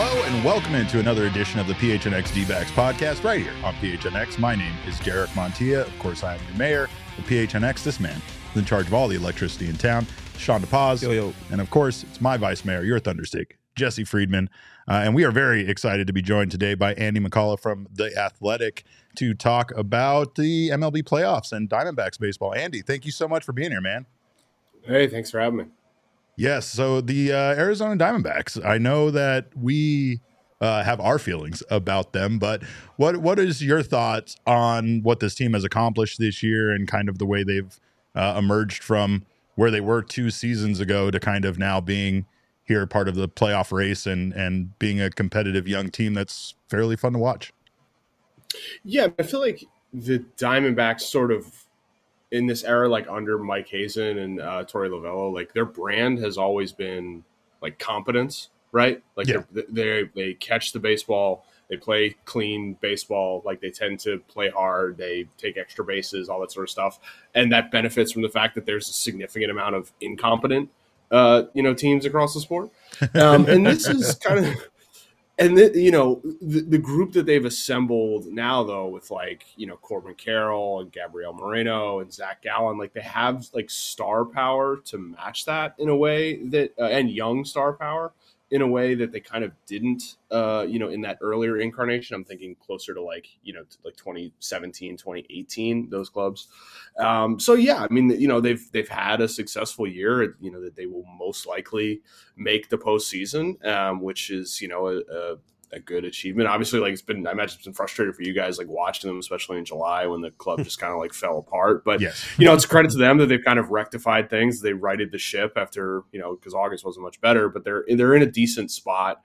Hello and welcome into another edition of the PHNX D-Backs podcast right here on PHNX. My name is Jarek Montilla. Of course, I am your mayor of PHNX. This man is in charge of all the electricity in town, Sean DePaz. Yo. And of course, it's my vice mayor, your Thunderstick, Jesse Friedman. And we are very excited to be joined today by Andy McCullough from The Athletic to talk about the MLB playoffs and Diamondbacks baseball. Andy, thank you so much for being here, man. Hey, thanks for having me. Yes, so the Arizona Diamondbacks, I know that we have our feelings about them, but what is your thoughts on what this team has accomplished this year and kind of the way they've emerged from where they were 2 seasons ago to kind of now being here part of the playoff race and being a competitive young team that's fairly fun to watch? Yeah, I feel like the Diamondbacks sort of in this era, like under Mike Hazen and Torey Lovullo, like their brand has always been like competence, right? Like they catch the baseball, they play clean baseball, like they tend to play hard, they take extra bases, all that sort of stuff, and that benefits from the fact that there's a significant amount of incompetent, teams across the sport, and this is kind of. And the group that they've assembled now, though, with Corbin Carroll and Gabriel Moreno and Zach Gallen, like they have like star power to match that in a way that and young star power in a way that they kind of didn't, in that earlier incarnation. I'm thinking closer to like 2017, 2018, those clubs. So yeah, I mean, they've had a successful year, that they will most likely make the postseason, which is, a good achievement. Obviously, I imagine it's been frustrating for you guys, like watching them, especially in July when the club just kind of like fell apart. But, yes. It's a credit to them that they've kind of rectified things. They righted the ship after, because August wasn't much better, but they're in a decent spot.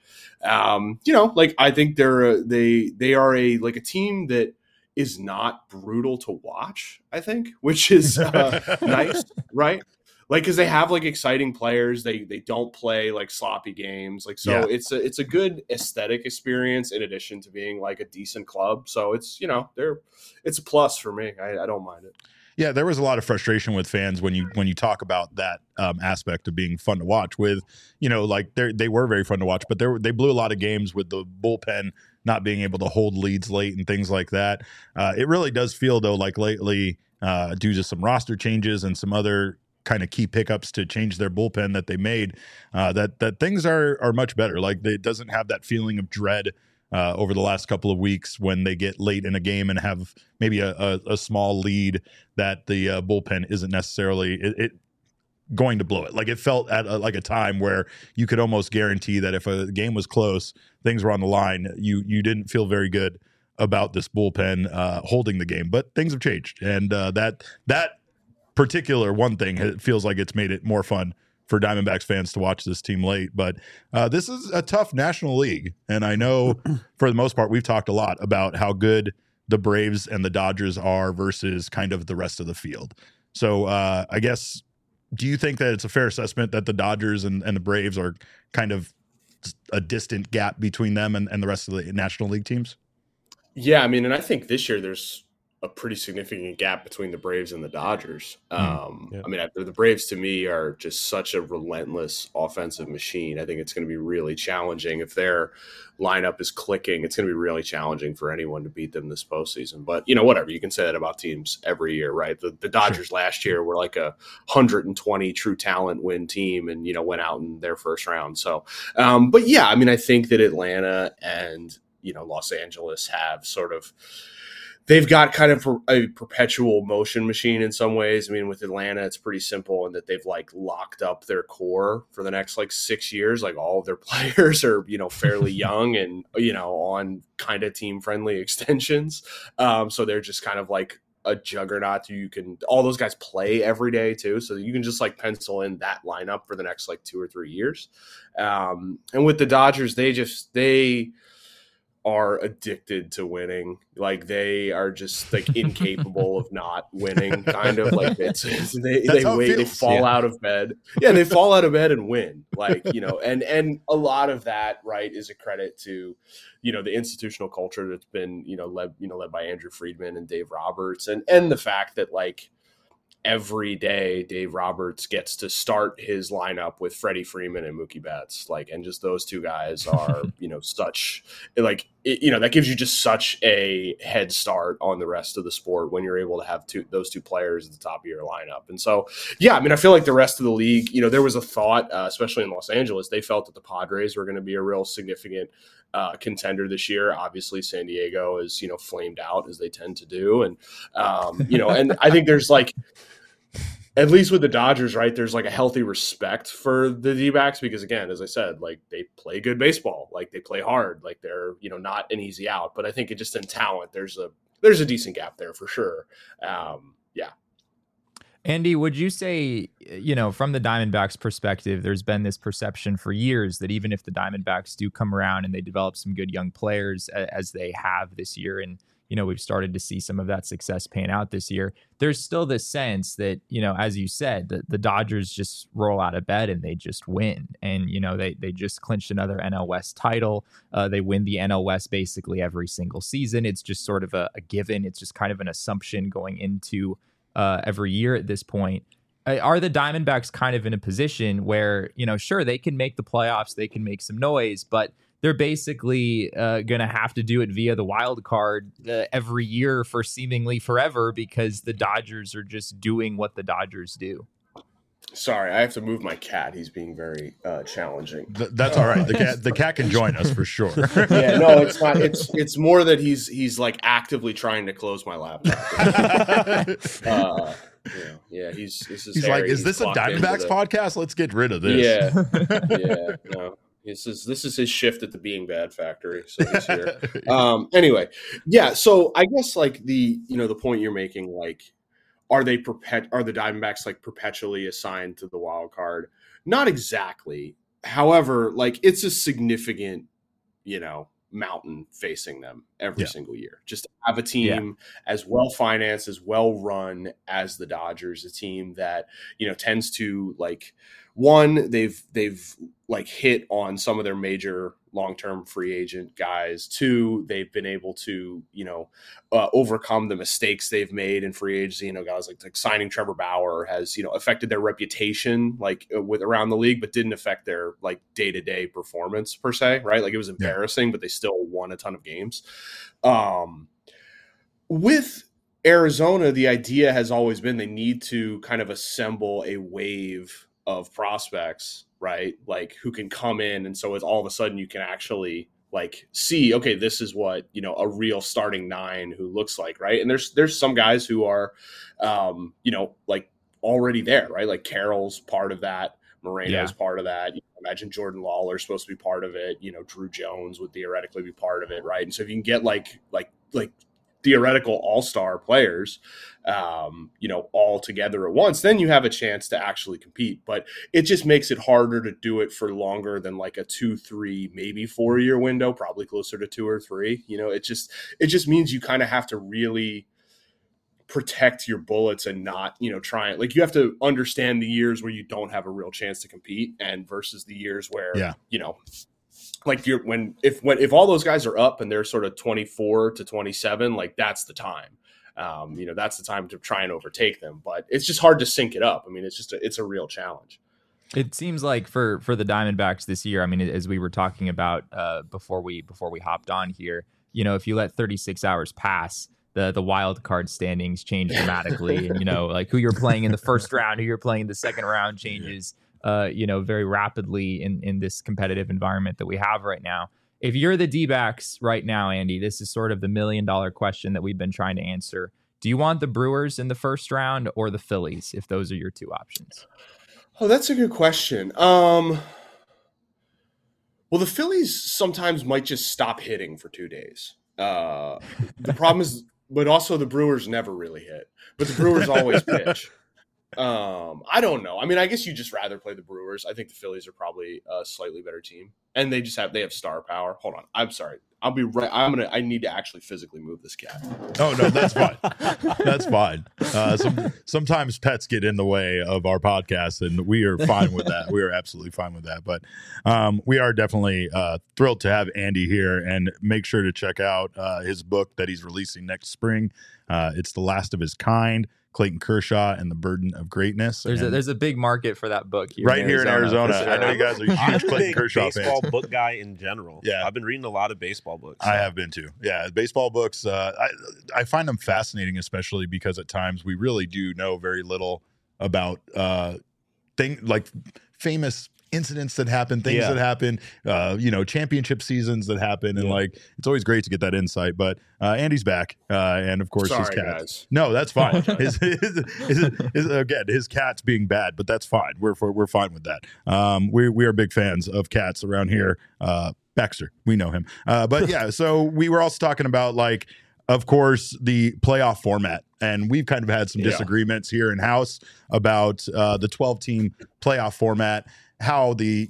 I think they are a team that is not brutal to watch, I think, which is nice, right? Because they have exciting players, they don't play sloppy games, It's a good aesthetic experience in addition to being a decent club. So it's it's a plus for me. I don't mind it. Yeah, there was a lot of frustration with fans when you talk about that aspect of being fun to watch. With they were very fun to watch, but they blew a lot of games with the bullpen not being able to hold leads late and things like that. It really does feel though like lately, due to some roster changes and some other kind of key pickups to change their bullpen that they made, that things are much better. It doesn't have that feeling of dread over the last couple of weeks when they get late in a game and have maybe a small lead that the bullpen isn't necessarily going to blow it. It felt at a time where you could almost guarantee that if a game was close, things were on the line, you didn't feel very good about this bullpen holding the game. But things have changed, and that particular one thing, it feels like it's made it more fun for Diamondbacks fans to watch this team late. But this is a tough National League, and I know for the most part we've talked a lot about how good the Braves and the Dodgers are versus kind of the rest of the field. So I guess, do you think that it's a fair assessment that the Dodgers and the Braves are kind of a distant gap between them and the rest of the National League teams? Yeah, I mean, and I think this year there's a pretty significant gap between the Braves and the Dodgers. I mean, the Braves to me are just such a relentless offensive machine. I think it's going to be really challenging if their lineup is clicking. It's going to be really challenging for anyone to beat them this postseason. But whatever, you can say that about teams every year, right? The Dodgers last year were like a 120 true talent win team, and went out in their first round. So, but yeah, I mean, I think that Atlanta and Los Angeles have sort of. They've got kind of a perpetual motion machine in some ways. I mean, with Atlanta, it's pretty simple in that they've locked up their core for the next 6 years. All of their players are, fairly young and, on kind of team friendly extensions. So they're just kind of a juggernaut. All those guys play every day too. So you can just pencil in that lineup for the next 2 or 3 years. And with the Dodgers, they are addicted to winning. They are just incapable of not winning, kind of they fall out of bed. Yeah, they fall out of bed and win. And a lot of that, right, is a credit to, the institutional culture that's been, led by Andrew Friedman and Dave Roberts, and the fact that every day Dave Roberts gets to start his lineup with Freddie Freeman and Mookie Betts, like, and just those two guys are, such like, that gives you just such a head start on the rest of the sport when you're able to have those two players at the top of your lineup. And so, yeah, I mean, I feel like the rest of the league, there was a thought, especially in Los Angeles, they felt that the Padres were going to be a real significant contender this year. Obviously, San Diego is, flamed out as they tend to do. And, and I think there's like, at least with the Dodgers, right, there's like a healthy respect for the D-backs because, again, as I said, like they play good baseball, like they play hard, like they're, not an easy out. But I think it just in talent, there's a decent gap there for sure. Yeah. Andy, would you say, from the Diamondbacks perspective, there's been this perception for years that even if the Diamondbacks do come around and they develop some good young players as they have this year, and, we've started to see some of that success pan out this year, there's still this sense that, as you said, the Dodgers just roll out of bed and they just win. And, they just clinched another NL West title. They win the NL West basically every single season. It's just sort of a given. It's just kind of an assumption going into every year at this point. Are the Diamondbacks kind of in a position where, sure, they can make the playoffs, they can make some noise, but they're basically going to have to do it via the wild card every year for seemingly forever because the Dodgers are just doing what the Dodgers do? Sorry, I have to move my cat. He's being very challenging. That's all right. The cat can join us for sure. Yeah, no, it's not. It's more that he's like actively trying to close my laptop. He's like, is this a Diamondbacks podcast? Let's get rid of this. Yeah. No. This is his shift at the Being Bad factory. So he's here. Anyway, yeah. So I guess like the point you're making, like, are the Diamondbacks like perpetually assigned to the wild card? Not exactly. However, like it's a significant, mountain facing them every single year. Just to have a team as well financed, as well run as the Dodgers, a team that, tends to like, one, they've like hit on some of their major long-term free agent guys. Two, they've been able to, overcome the mistakes they've made in free agency. Guys like signing Trevor Bauer has, affected their reputation like with around the league, but didn't affect their like day-to-day performance per se, right? Like it was embarrassing, but they still won a ton of games. With Arizona, the idea has always been they need to kind of assemble a wave of prospects, right? Like who can come in. And so it's all of a sudden you can actually like see, okay, this is what, a real starting nine who looks like, right? And there's some guys who are, like already there, right? Like Carroll's part of that. Moreno's part of that. Imagine Jordan Lawler's supposed to be part of it. Drew Jones would theoretically be part of it, right? And so if you can get like theoretical all-star players, all together at once, then you have a chance to actually compete. But it just makes it harder to do it for longer than like a 2, 3, maybe 4-year window, probably closer to 2 or 3. It just means you kind of have to really protect your bullets and not, try it. Like you have to understand the years where you don't have a real chance to compete and versus the years where, like if all those guys are up and they're sort of 24 to 27, like that's the time. That's the time to try and overtake them. But it's just hard to sync it up. I mean, it's a real challenge. It seems like for the Diamondbacks this year, I mean, as we were talking about before we hopped on here, if you let 36 hours pass, the wild card standings change dramatically, and like who you're playing in the first round, who you're playing in the second round changes. Very rapidly in this competitive environment that we have right now. If you're the D-backs right now, Andy, this is sort of the $1 million question that we've been trying to answer. Do you want the Brewers in the first round or the Phillies, if those are your two options? Oh, that's a good question. Well, the Phillies sometimes might just stop hitting for 2 days. The problem is, but also the Brewers never really hit, but the Brewers always pitch. I don't know. I mean, I guess you just rather play the Brewers. I think the Phillies are probably a slightly better team, and they have star power. Hold on, I'm sorry. I'll be right. I need to actually physically move this cat. Oh no, that's fine. That's fine. Sometimes pets get in the way of our podcast, and we are fine with that. We are absolutely fine with that. But we are definitely thrilled to have Andy here, and make sure to check out his book that he's releasing next spring. It's The Last of His Kind. Clayton Kershaw and the Burden of Greatness. There's a big market for that book here here in Arizona. Sure. I know you guys are huge Clayton Kershaw baseball fans. book guy in general. Yeah, I've been reading a lot of baseball books. So. I have been too. Yeah, baseball books. I find them fascinating, especially because at times we really do know very little about like famous incidents that happen, things that happen, championship seasons that happen, and like it's always great to get that insight. But Andy's back, and of course his cat. Guys. No, that's fine. His cat's being bad, but that's fine. We're fine with that. We are big fans of cats around here. Baxter, we know him. But yeah, so we were also talking about like, of course, the playoff format. And we've kind of had some disagreements here in house about the 12-team playoff format, how the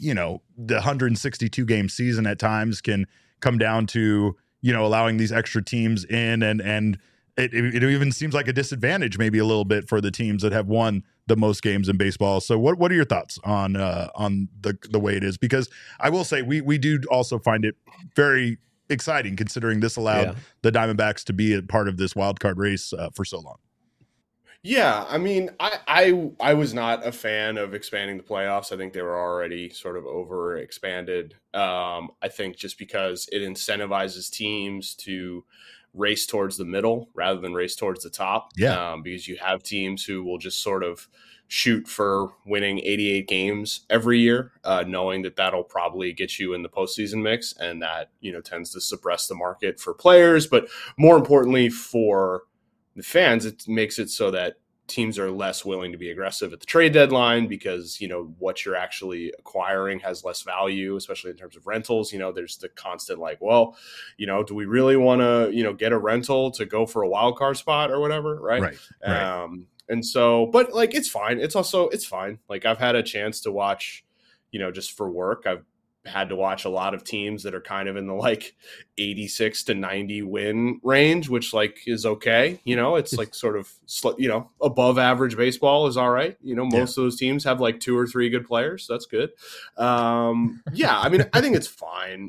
162 game season at times can come down to, allowing these extra teams in, and it even seems like a disadvantage maybe a little bit for the teams that have won the most games in baseball. So what are your thoughts on the way it is? Because I will say we do also find it very exciting, considering this allowed the Diamondbacks to be a part of this wild card race for so long. Yeah, I mean, I was not a fan of expanding the playoffs. I think they were already sort of over expanded. I think just because it incentivizes teams to race towards the middle rather than race towards the top. Yeah. Because you have teams who will just sort of shoot for winning 88 games every year, knowing that that'll probably get you in the postseason mix, and that, tends to suppress the market for players. But more importantly for the fans, it makes it so that teams are less willing to be aggressive at the trade deadline because, what you're actually acquiring has less value, especially in terms of rentals. There's the constant like, well, do we really want to, get a rental to go for a wild card spot or whatever? Right. And so, but like, it's fine. It's fine. Like, I've had a chance to watch, just for work, I've had to watch a lot of teams that are kind of in the like 86 to 90 win range, which like is okay. It's like sort of, above average baseball is all right. Most of those teams have like 2 or 3 good players. So that's good. I mean, I think it's fine.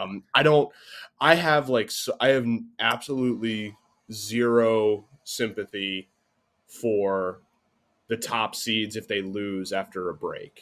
I have absolutely zero sympathy for the top seeds if they lose after a break.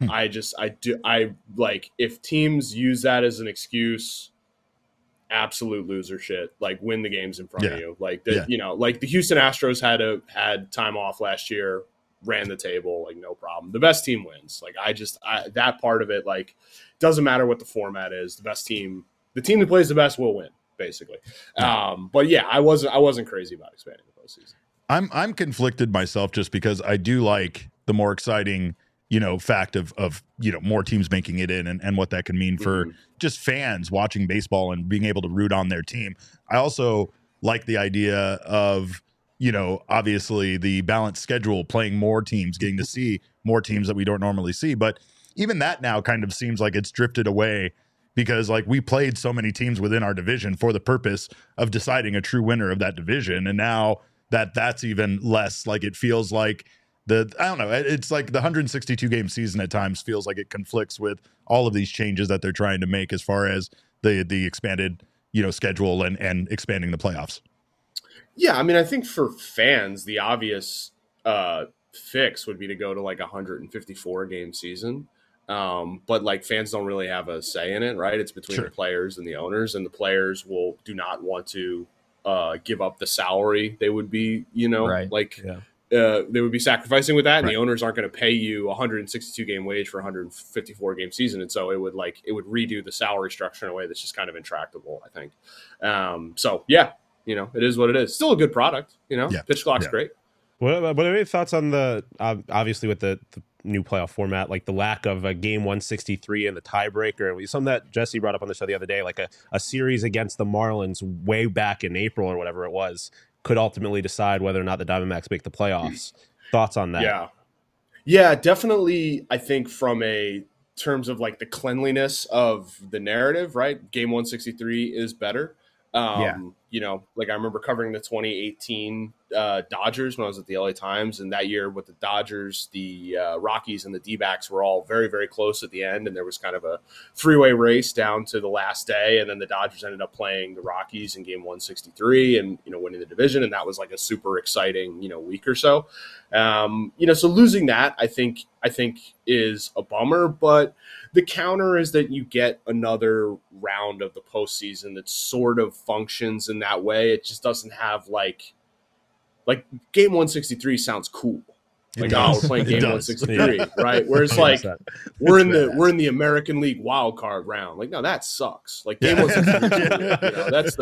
I like, if teams use that as an excuse, absolute loser shit. Like, win the games in front of you. Like like the Houston Astros had time off last year, ran the table, like no problem. The best team wins. Like, that part of it, like, doesn't matter what the format is. The team that plays the best will win, basically. But yeah, I wasn't crazy about expanding the postseason. I'm conflicted myself, just because I do like the more exciting, fact of more teams making it in, and what that can mean for just fans watching baseball and being able to root on their team. I also like the idea of, obviously the balanced schedule, playing more teams, getting to see more teams that we don't normally see. But even that now kind of seems like it's drifted away, because like we played so many teams within our division for the purpose of deciding a true winner of that division. And now that's even less, like, it feels like I don't know. It's like the 162 game season at times feels like it conflicts with all of these changes that they're trying to make as far as the expanded, schedule and expanding the playoffs. Yeah. I mean, I think for fans, the obvious fix would be to go to like 154 game season. But like, fans don't really have a say in it, right? It's between the players and the owners, and the players do not want to give up the salary they would be, they would be sacrificing with that, and the owners aren't going to pay you 162 game wage for 154 game season. And so it would redo the salary structure in a way that's just kind of intractable, I think. So yeah, it is what it is. Still a good product, pitch clock's great. What are your thoughts on the, obviously with the new playoff format, like the lack of a game 163 and the tiebreaker, something that Jesse brought up on the show the other day, like a series against the Marlins way back in April or whatever it was, could ultimately decide whether or not the Diamondbacks make the playoffs. Thoughts on that? Yeah, definitely. I think from a terms of like the cleanliness of the narrative, right? Game 163 is better. like I remember covering the 2018 Dodgers when I was at the LA Times, and that year with the Dodgers, the Rockies and the D-backs were all very, very close at the end, and there was kind of a three-way race down to the last day, and then the Dodgers ended up playing the Rockies in game 163 and, winning the division, and that was like a super exciting, week or so. So losing that, I think is a bummer, but the counter is that you get another round of the postseason that sort of functions in that way. It just doesn't have like game 163 sounds cool. Like, we're playing game 163, right? Whereas like we're in the American League wild card round. Like, no, that sucks. Like game 163, that's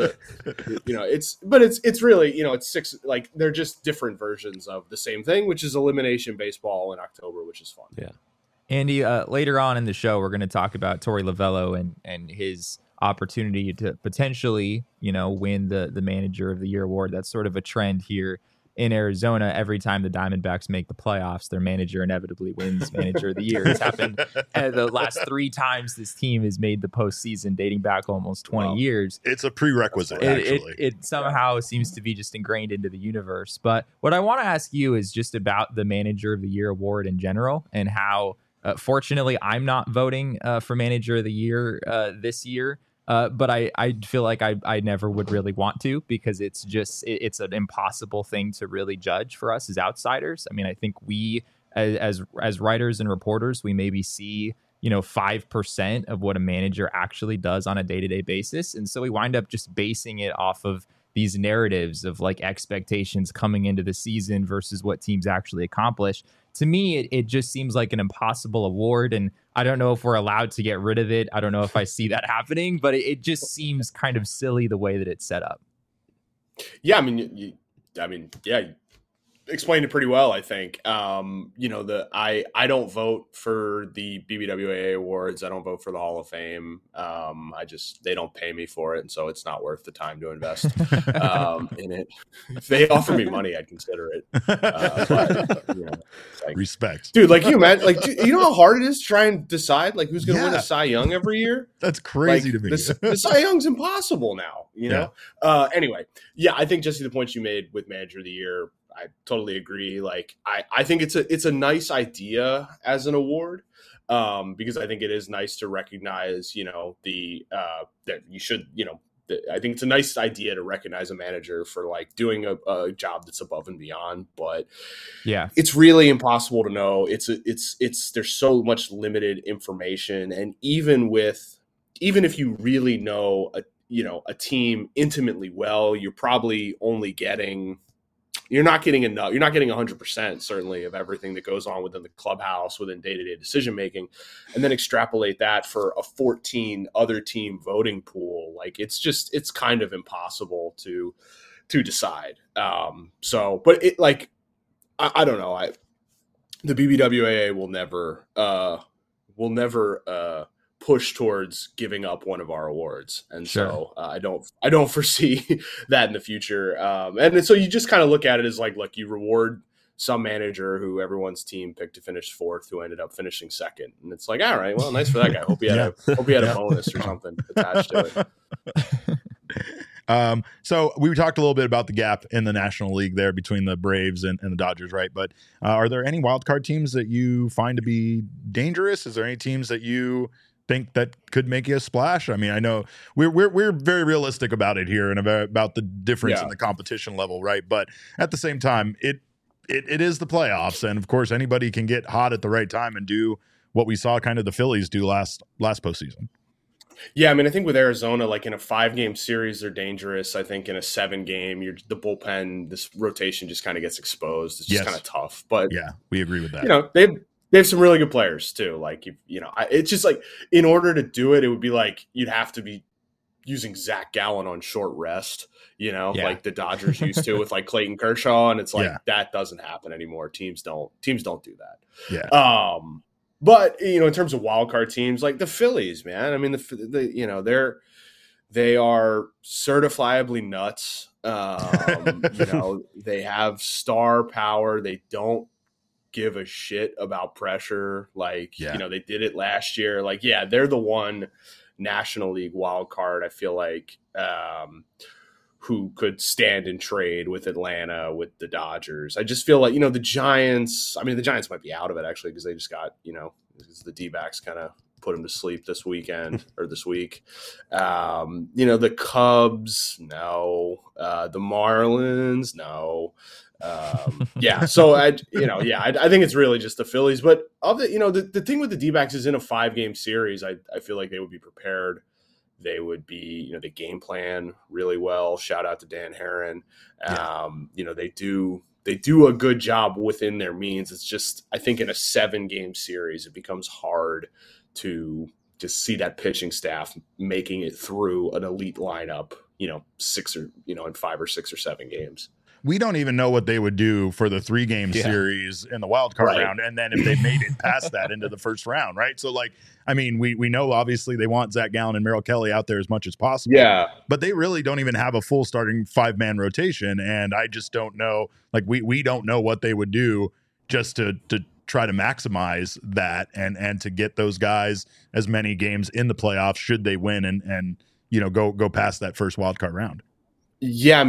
it's really, it's six, like they're just different versions of the same thing, which is elimination baseball in October, which is fun. Yeah. Andy, later on in the show, we're going to talk about Torey Lovullo and his opportunity to potentially, win the Manager of the Year award. That's sort of a trend here in Arizona. Every time the Diamondbacks make the playoffs, their manager inevitably wins Manager of the Year. It's happened the last 3 times this team has made the postseason, dating back almost 20 years. It's a prerequisite, actually. It somehow seems to be just ingrained into the universe. But what I want to ask you is just about the Manager of the Year award in general, and how, fortunately, I'm not voting for Manager of the Year this year. But I feel like I never would really want to, because it's an impossible thing to really judge for us as outsiders. I mean, I think we as writers and reporters, we maybe see 5% of what a manager actually does on a day-to-day basis, and so we wind up just basing it off of these narratives of like expectations coming into the season versus what teams actually accomplish. To me, it just seems like an impossible award, and I don't know if we're allowed to get rid of it. I don't know if I see that happening, but it just seems kind of silly the way that it's set up. Yeah, I mean, you explained it pretty well, I think. I don't vote for the BBWAA awards. I don't vote for the Hall of Fame. They don't pay me for it, and so it's not worth the time to invest in it. If they offer me money, I'd consider it. Respect, dude. Like, you imagine, like, you know how hard it is to try and decide like who's going to win a Cy Young every year? That's crazy to me. The Cy Young's impossible now. Anyway, I think, Jesse, the points you made with Manager of the Year, I totally agree. Like, I think it's a nice idea as an award, because I think it is nice to recognize, that you should, I think it's a nice idea to recognize a manager for like doing a job that's above and beyond. But it's really impossible to know. There's so much limited information, and even if you really know a team intimately well, you're probably only getting. You're not getting enough. You're not getting 100%, certainly, of everything that goes on within the clubhouse, within day-to-day decision-making, and then extrapolate that for a 14 other team voting pool. Like, it's kind of impossible to decide. But it, like, I don't know. The BBWAA will never push towards giving up one of our awards, and so I don't foresee that in the future. And so you just kind of look at it as like, look, you reward some manager who everyone's team picked to finish 4th, who ended up finishing 2nd, and it's like, all right, well, nice for that guy. Hope he had a bonus or something attached to it. So we talked a little bit about the gap in the National League there between the Braves and the Dodgers, right? But are there any wild card teams that you find to be dangerous? Is there any teams that you think that could make you a splash? I mean, I know we're very realistic about it here and about the difference in the competition level, right? But at the same time, it is the playoffs, and of course, anybody can get hot at the right time and do what we saw kind of the Phillies do last postseason. Yeah, I mean, I think with Arizona, like in a 5-game series, they're dangerous. I think in a 7-game, the bullpen, this rotation just kind of gets exposed. It's just kind of tough. But yeah, we agree with that. They have some really good players too. Like, it's just like, in order to do it, it would be like you'd have to be using Zach Gallen on short rest, like the Dodgers used to with like Clayton Kershaw, and it's like that doesn't happen anymore. Teams don't do that. Yeah. But in terms of wild card teams, like the Phillies, man. I mean, they are certifiably nuts. They have star power. They don't give a shit about pressure. Like, they did it last year. Like, they're the one National League wild card, I feel like, who could stand and trade with Atlanta, with the Dodgers. I just feel like, the Giants, the Giants might be out of it actually, because they just got, the D-backs kind of put them to sleep this weekend or this week. The Cubs, no. The Marlins, no. So I think it's really just the Phillies. But the thing with the D-backs is in a 5-game series, I feel like they would be prepared. They would be, they game plan really well. Shout out to Dan Herron. They do a good job within their means. It's just, I think in a 7-game series, it becomes hard to just see that pitching staff making it through an elite lineup, in 5 or 6 or 7 games. We don't even know what they would do for the 3-game series in the wild card round. And then if they made it past that into the first round, right? So we know obviously they want Zach Gallen and Merrill Kelly out there as much as possible. Yeah. But they really don't even have a full starting 5-man rotation. And I just don't know, we don't know what they would do just to try to maximize that and to get those guys as many games in the playoffs should they win and go past that first wild card round. Yeah,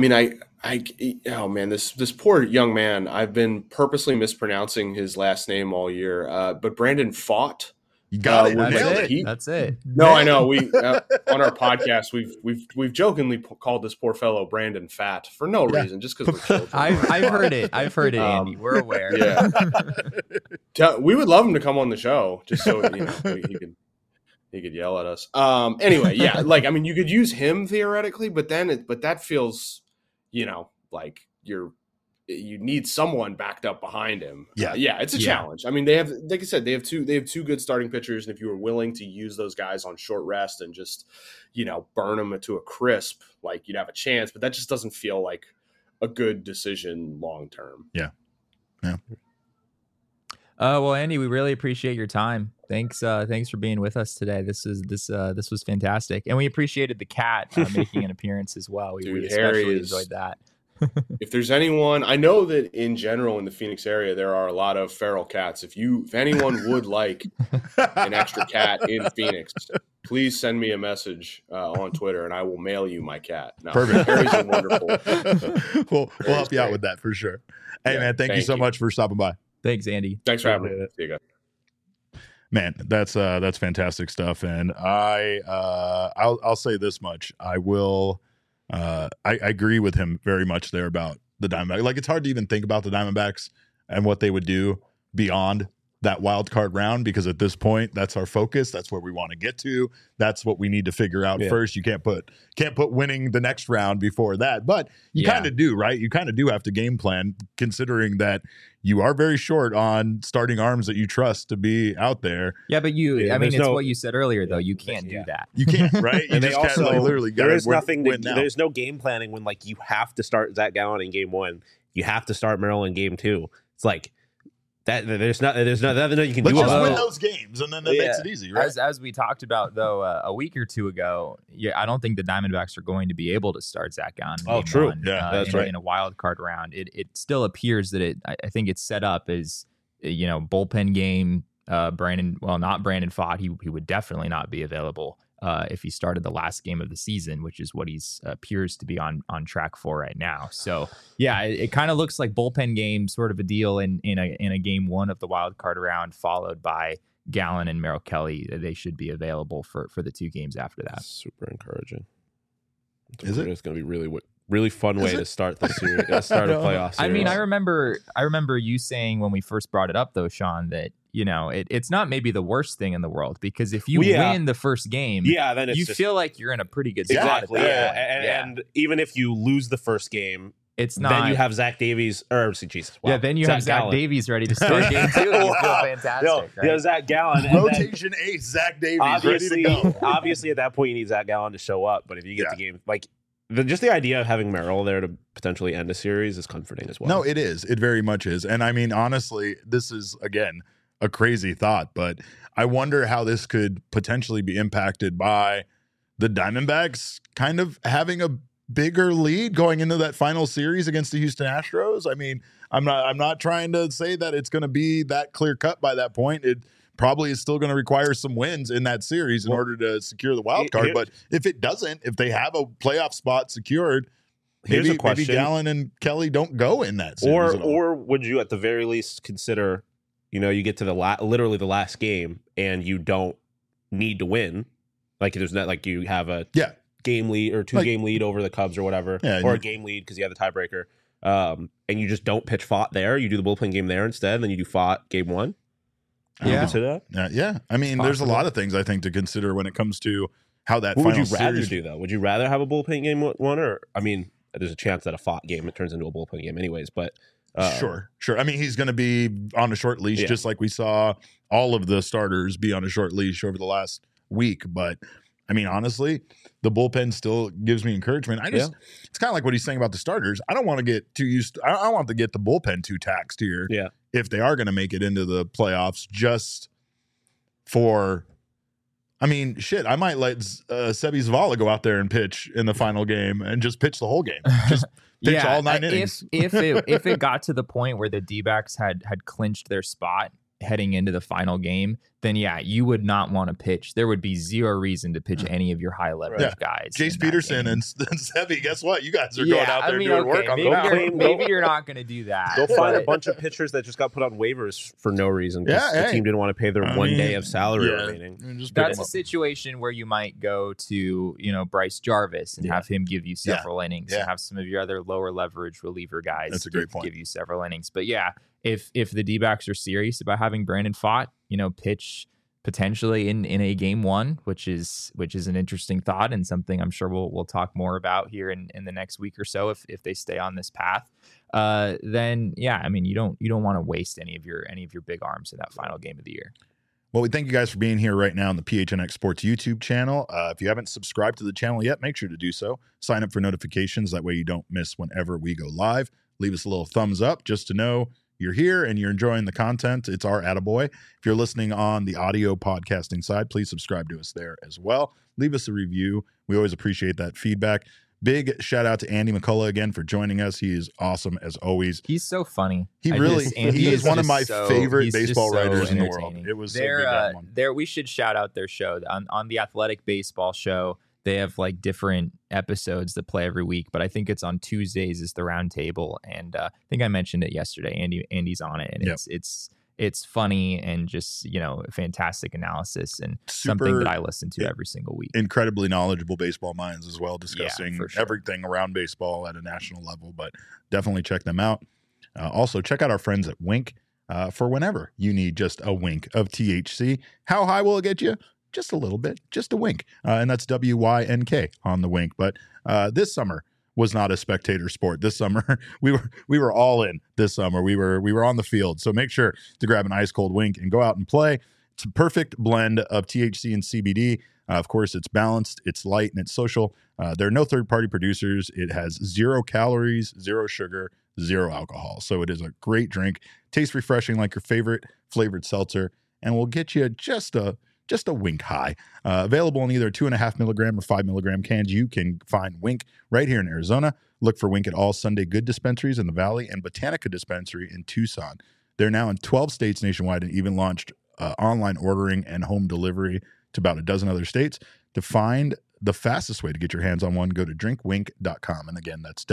oh man, this poor young man. I've been purposely mispronouncing his last name all year, but Brandon Pfaadt. You got it. That's it. No, I know. We on our podcast we've jokingly called this poor fellow Brandon Fat for no reason, just because we're children. I've heard it, Andy. We're aware. Yeah, we would love him to come on the show just so he could yell at us. Anyway, yeah, you could use him theoretically, but that feels, like you need someone backed up behind him. Yeah, it's a challenge. They have, like I said, they have two good starting pitchers, and if you were willing to use those guys on short rest and just, burn them to a crisp, you'd have a chance. But that just doesn't feel like a good decision long term. Yeah. Well, Andy, we really appreciate your time. Thanks for being with us today. This was fantastic, and we appreciated the cat making an appearance as well. We especially enjoyed that. If there's anyone, I know that in general in the Phoenix area there are a lot of feral cats. If anyone would like an extra cat in Phoenix, please send me a message on Twitter and I will mail you my cat. No, perfect. Harry's a wonderful. We'll help you out with that for sure. Hey man, thank you so much for stopping by. Thanks, Andy. Thanks for having me. See you guys. Man, that's fantastic stuff, and I'll say this much: I agree with him very much there about the Diamondbacks. It's hard to even think about the Diamondbacks and what they would do beyond that wild card round, because at this point, that's our focus. That's where we want to get to. That's what we need to figure out first. You can't put winning the next round before that, but you kind of do, right? You kind of do have to game plan, considering that you are very short on starting arms that you trust to be out there. Yeah, but it's what you said earlier, though. You can't do that. You can't, right? You and just they also, can't, literally there is nothing. There's no game planning when you have to start Zach Gallen in game 1. You have to start Merrill in game 2. It's that. There's nothing you can do. Let's just win those games, and then that makes it easy, right? As we talked about though a week or two ago, I don't think the Diamondbacks are going to be able to start Zach Gallen. True. That's right. In a wild card round, it still appears that I think it's set up as bullpen game. Not Brandon Pfaadt. He would definitely not be available if he started the last game of the season, which is what he's appears to be on track for right now. So yeah, it kind of looks like bullpen game sort of a deal in a game 1 of the wild card round, followed by Gallen and Merrill Kelly. They should be available for the 2 games after that. Super encouraging. Is it? It's going to be really fun way to start the series. Start a playoff series. I remember you saying when we first brought it up though, Sean, that it's not maybe the worst thing in the world, because if you win the first game, then you feel like you're in a pretty good spot. Exactly. And even if you lose the first game, it's not. Then you have Zach Davies, Jesus. Wow. Yeah, then you have Zach Davies ready to start game 2. You feel fantastic. Right? Zach Gallen. Rotation ace, Zach Davies, ready to go. Obviously, at that point, you need Zach Gallen to show up. But if you get the game, just the idea of having Merrill there to potentially end a series is comforting as well. No, it is. It very much is. And honestly, this is, again, a crazy thought, but I wonder how this could potentially be impacted by the Diamondbacks kind of having a bigger lead going into that final series against the Houston Astros. I'm not trying to say that it's going to be that clear cut by that point. It probably is still going to require some wins in that series in order to secure the wild card. But if it doesn't, if they have a playoff spot secured, Here's maybe a question. maybe Gallen and Kelly don't go in that series at all. Or would you at the very least consider, you get to literally the last game and you don't need to win, like there's not like you have a game lead or two-game lead over the Cubs or whatever, or a game lead because you have the tiebreaker, and you just don't pitch Fott there. You do the bullpen game there instead, and then you do Fott game one. Yeah. Consider that? Yeah. I mean, there's a lot of things I think to consider when it comes to how that What final would you rather series... do, though? Would you rather have a bullpen game one, or, I mean, there's a chance that a Fott game, it turns into a bullpen game anyways, but... Sure. I mean, he's going to be on a short leash, just like we saw all of the starters be on a short leash over the last week. But I mean, honestly, the bullpen still gives me encouragement. It's kind of like what he's saying about the starters. I don't want to get too used to, I want to get the bullpen too taxed here. Yeah. If they are going to make it into the playoffs, just for, I mean, shit, I might let Sebi Zavala go out there and pitch in the final game and just pitch the whole game. Just pitch all 9 innings. If it got to the point where the D-backs had clinched their spot heading into the final game, then you would not want to pitch. There would be zero reason to pitch any of your high leverage guys. Jace Peterson and Sebi, guess what? You guys are going out there doing work on maybe you're not going to do that. Go find a bunch of pitchers that just got put on waivers for no reason because the team didn't want to pay their 1 day of salary remaining. That's a situation where you might go to Bryce Jarvis and have him give you several innings and have some of your other lower leverage reliever guys That's a great point. give you several innings. But if the D-backs are serious about having Brandon Pfaadt, pitch potentially in a game one, which is an interesting thought and something I'm sure we'll talk more about here in the next week or so if they stay on this path, then I mean you don't want to waste any of your big arms in that final game of the year. Well, we thank you guys for being here right now on the PHNX Sports YouTube channel. If you haven't subscribed to the channel yet, make sure to do so. Sign up for notifications. That way you don't miss whenever we go live. Leave us a little thumbs up just to know you're here and you're enjoying the content. It's our attaboy. If you're listening on the audio podcasting side, please subscribe to us there as well. Leave us a review. We always appreciate that feedback. Big shout out to Andy McCullough again for joining us. He is awesome as always. He so funny. He is one of my favorite baseball writers in the world. It was so good, that one. We should shout out their show on the Athletic Baseball Show. They have like different episodes that play every week, but I think it's on Tuesdays is the roundtable, and I think I mentioned it yesterday. Andy's on it, and it's funny and just fantastic analysis and something that I listen to every single week. Incredibly knowledgeable baseball minds as well, discussing everything around baseball at a national level. But definitely check them out. Also, check out our friends at Wink for whenever you need just a wink of THC. How high will it get you? Just a little bit, just a wink. And that's WYNK on the wink. But this summer was not a spectator sport. This summer, we were all in this summer. We were on the field. So make sure to grab an ice cold wink and go out and play. It's a perfect blend of THC and CBD. Of course, it's balanced, it's light, and it's social. There are no third-party producers. It has 0 calories, 0 sugar, 0 alcohol. So it is a great drink. Tastes refreshing like your favorite flavored seltzer, and will get you just a wink high. Available in either 2.5 milligram or 5 milligram cans. You can find Wink right here in Arizona. Look for Wink at all Sunday Good dispensaries in the Valley and Botanica dispensary in Tucson. They're now in 12 states nationwide and even launched online ordering and home delivery to about a dozen other states. To find the fastest way to get your hands on one, go to drinkwink.com. And again, that's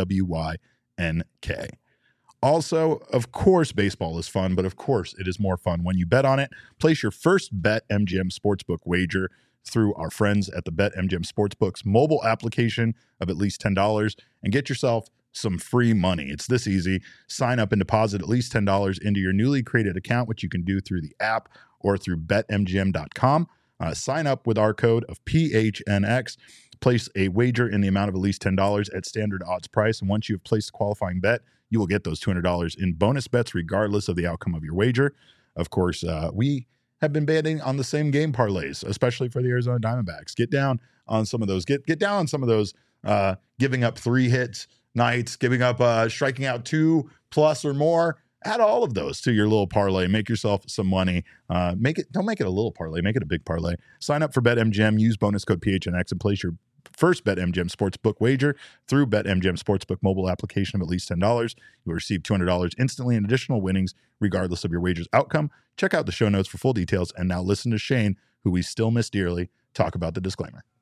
WYNK. Also, of course, baseball is fun, but of course, it is more fun when you bet on it. Place your first BetMGM Sportsbook wager through our friends at the BetMGM Sportsbook's mobile application of at least $10 and get yourself some free money. It's this easy. Sign up and deposit at least $10 into your newly created account, which you can do through the app or through betmgm.com. Sign up with our code of PHNX. Place a wager in the amount of at least $10 at standard odds price. And once you've placed a qualifying bet, you will get those $200 in bonus bets regardless of the outcome of your wager. Of course, we have been betting on the same game parlays, especially for the Arizona Diamondbacks. Get down on some of those. Get down on some of those giving up 3 hits nights, giving up striking out 2+ or more. Add all of those to your little parlay. Make yourself some money. Don't make it a little parlay. Make it a big parlay. Sign up for BetMGM. Use bonus code PHNX and place your first BetMGM Sportsbook wager through BetMGM Sportsbook mobile application of at least $10. You'll receive $200 instantly in additional winnings regardless of your wager's outcome. Check out the show notes for full details. And now listen to Shane, who we still miss dearly, talk about the disclaimer.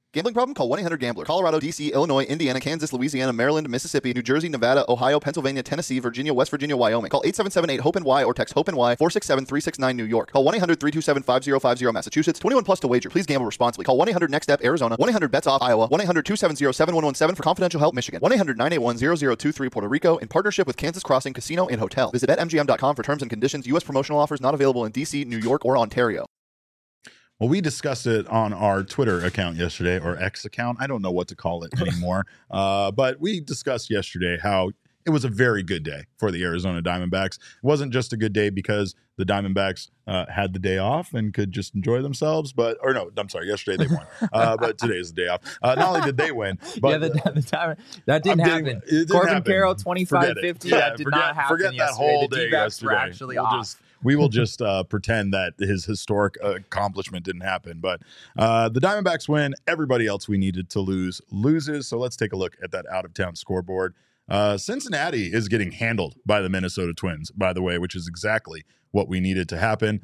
Gambling problem? Call 1-800-GAMBLER. Colorado, D.C., Illinois, Indiana, Kansas, Louisiana, Maryland, Mississippi, New Jersey, Nevada, Ohio, Pennsylvania, Tennessee, Virginia, West Virginia, Wyoming. Call 877-8-HOPE-NY or text HOPE-NY 467-369 New York. Call 1-800-327-5050 Massachusetts. 21 plus to wager. Please gamble responsibly. Call 1-800-NEXT-STEP Arizona. 1-800-BETS-OFF Iowa. 1-800-270-7117 for confidential help Michigan. 1-800-981-0023 Puerto Rico in partnership with Kansas Crossing Casino and Hotel. Visit BetMGM.com for terms and conditions. U.S. promotional offers not available in D.C., New York, or Ontario. Well, we discussed it on our Twitter account yesterday, or X account. I don't know what to call it anymore. But we discussed yesterday how it was a very good day for the Arizona Diamondbacks. It wasn't just a good day because the Diamondbacks had the day off and could just enjoy themselves. Yesterday they won. But today's the day off. Not only did they win, but that didn't happen. Corbin Carroll, 25-50. That did not happen Forget yesterday. that whole the day D-backs yesterday. were actually off. We will just pretend that his historic accomplishment didn't happen. But the Diamondbacks win. Everybody else we needed to lose loses. So let's take a look at that out-of-town scoreboard. Cincinnati is getting handled by the Minnesota Twins, by the way, which is exactly what we needed to happen.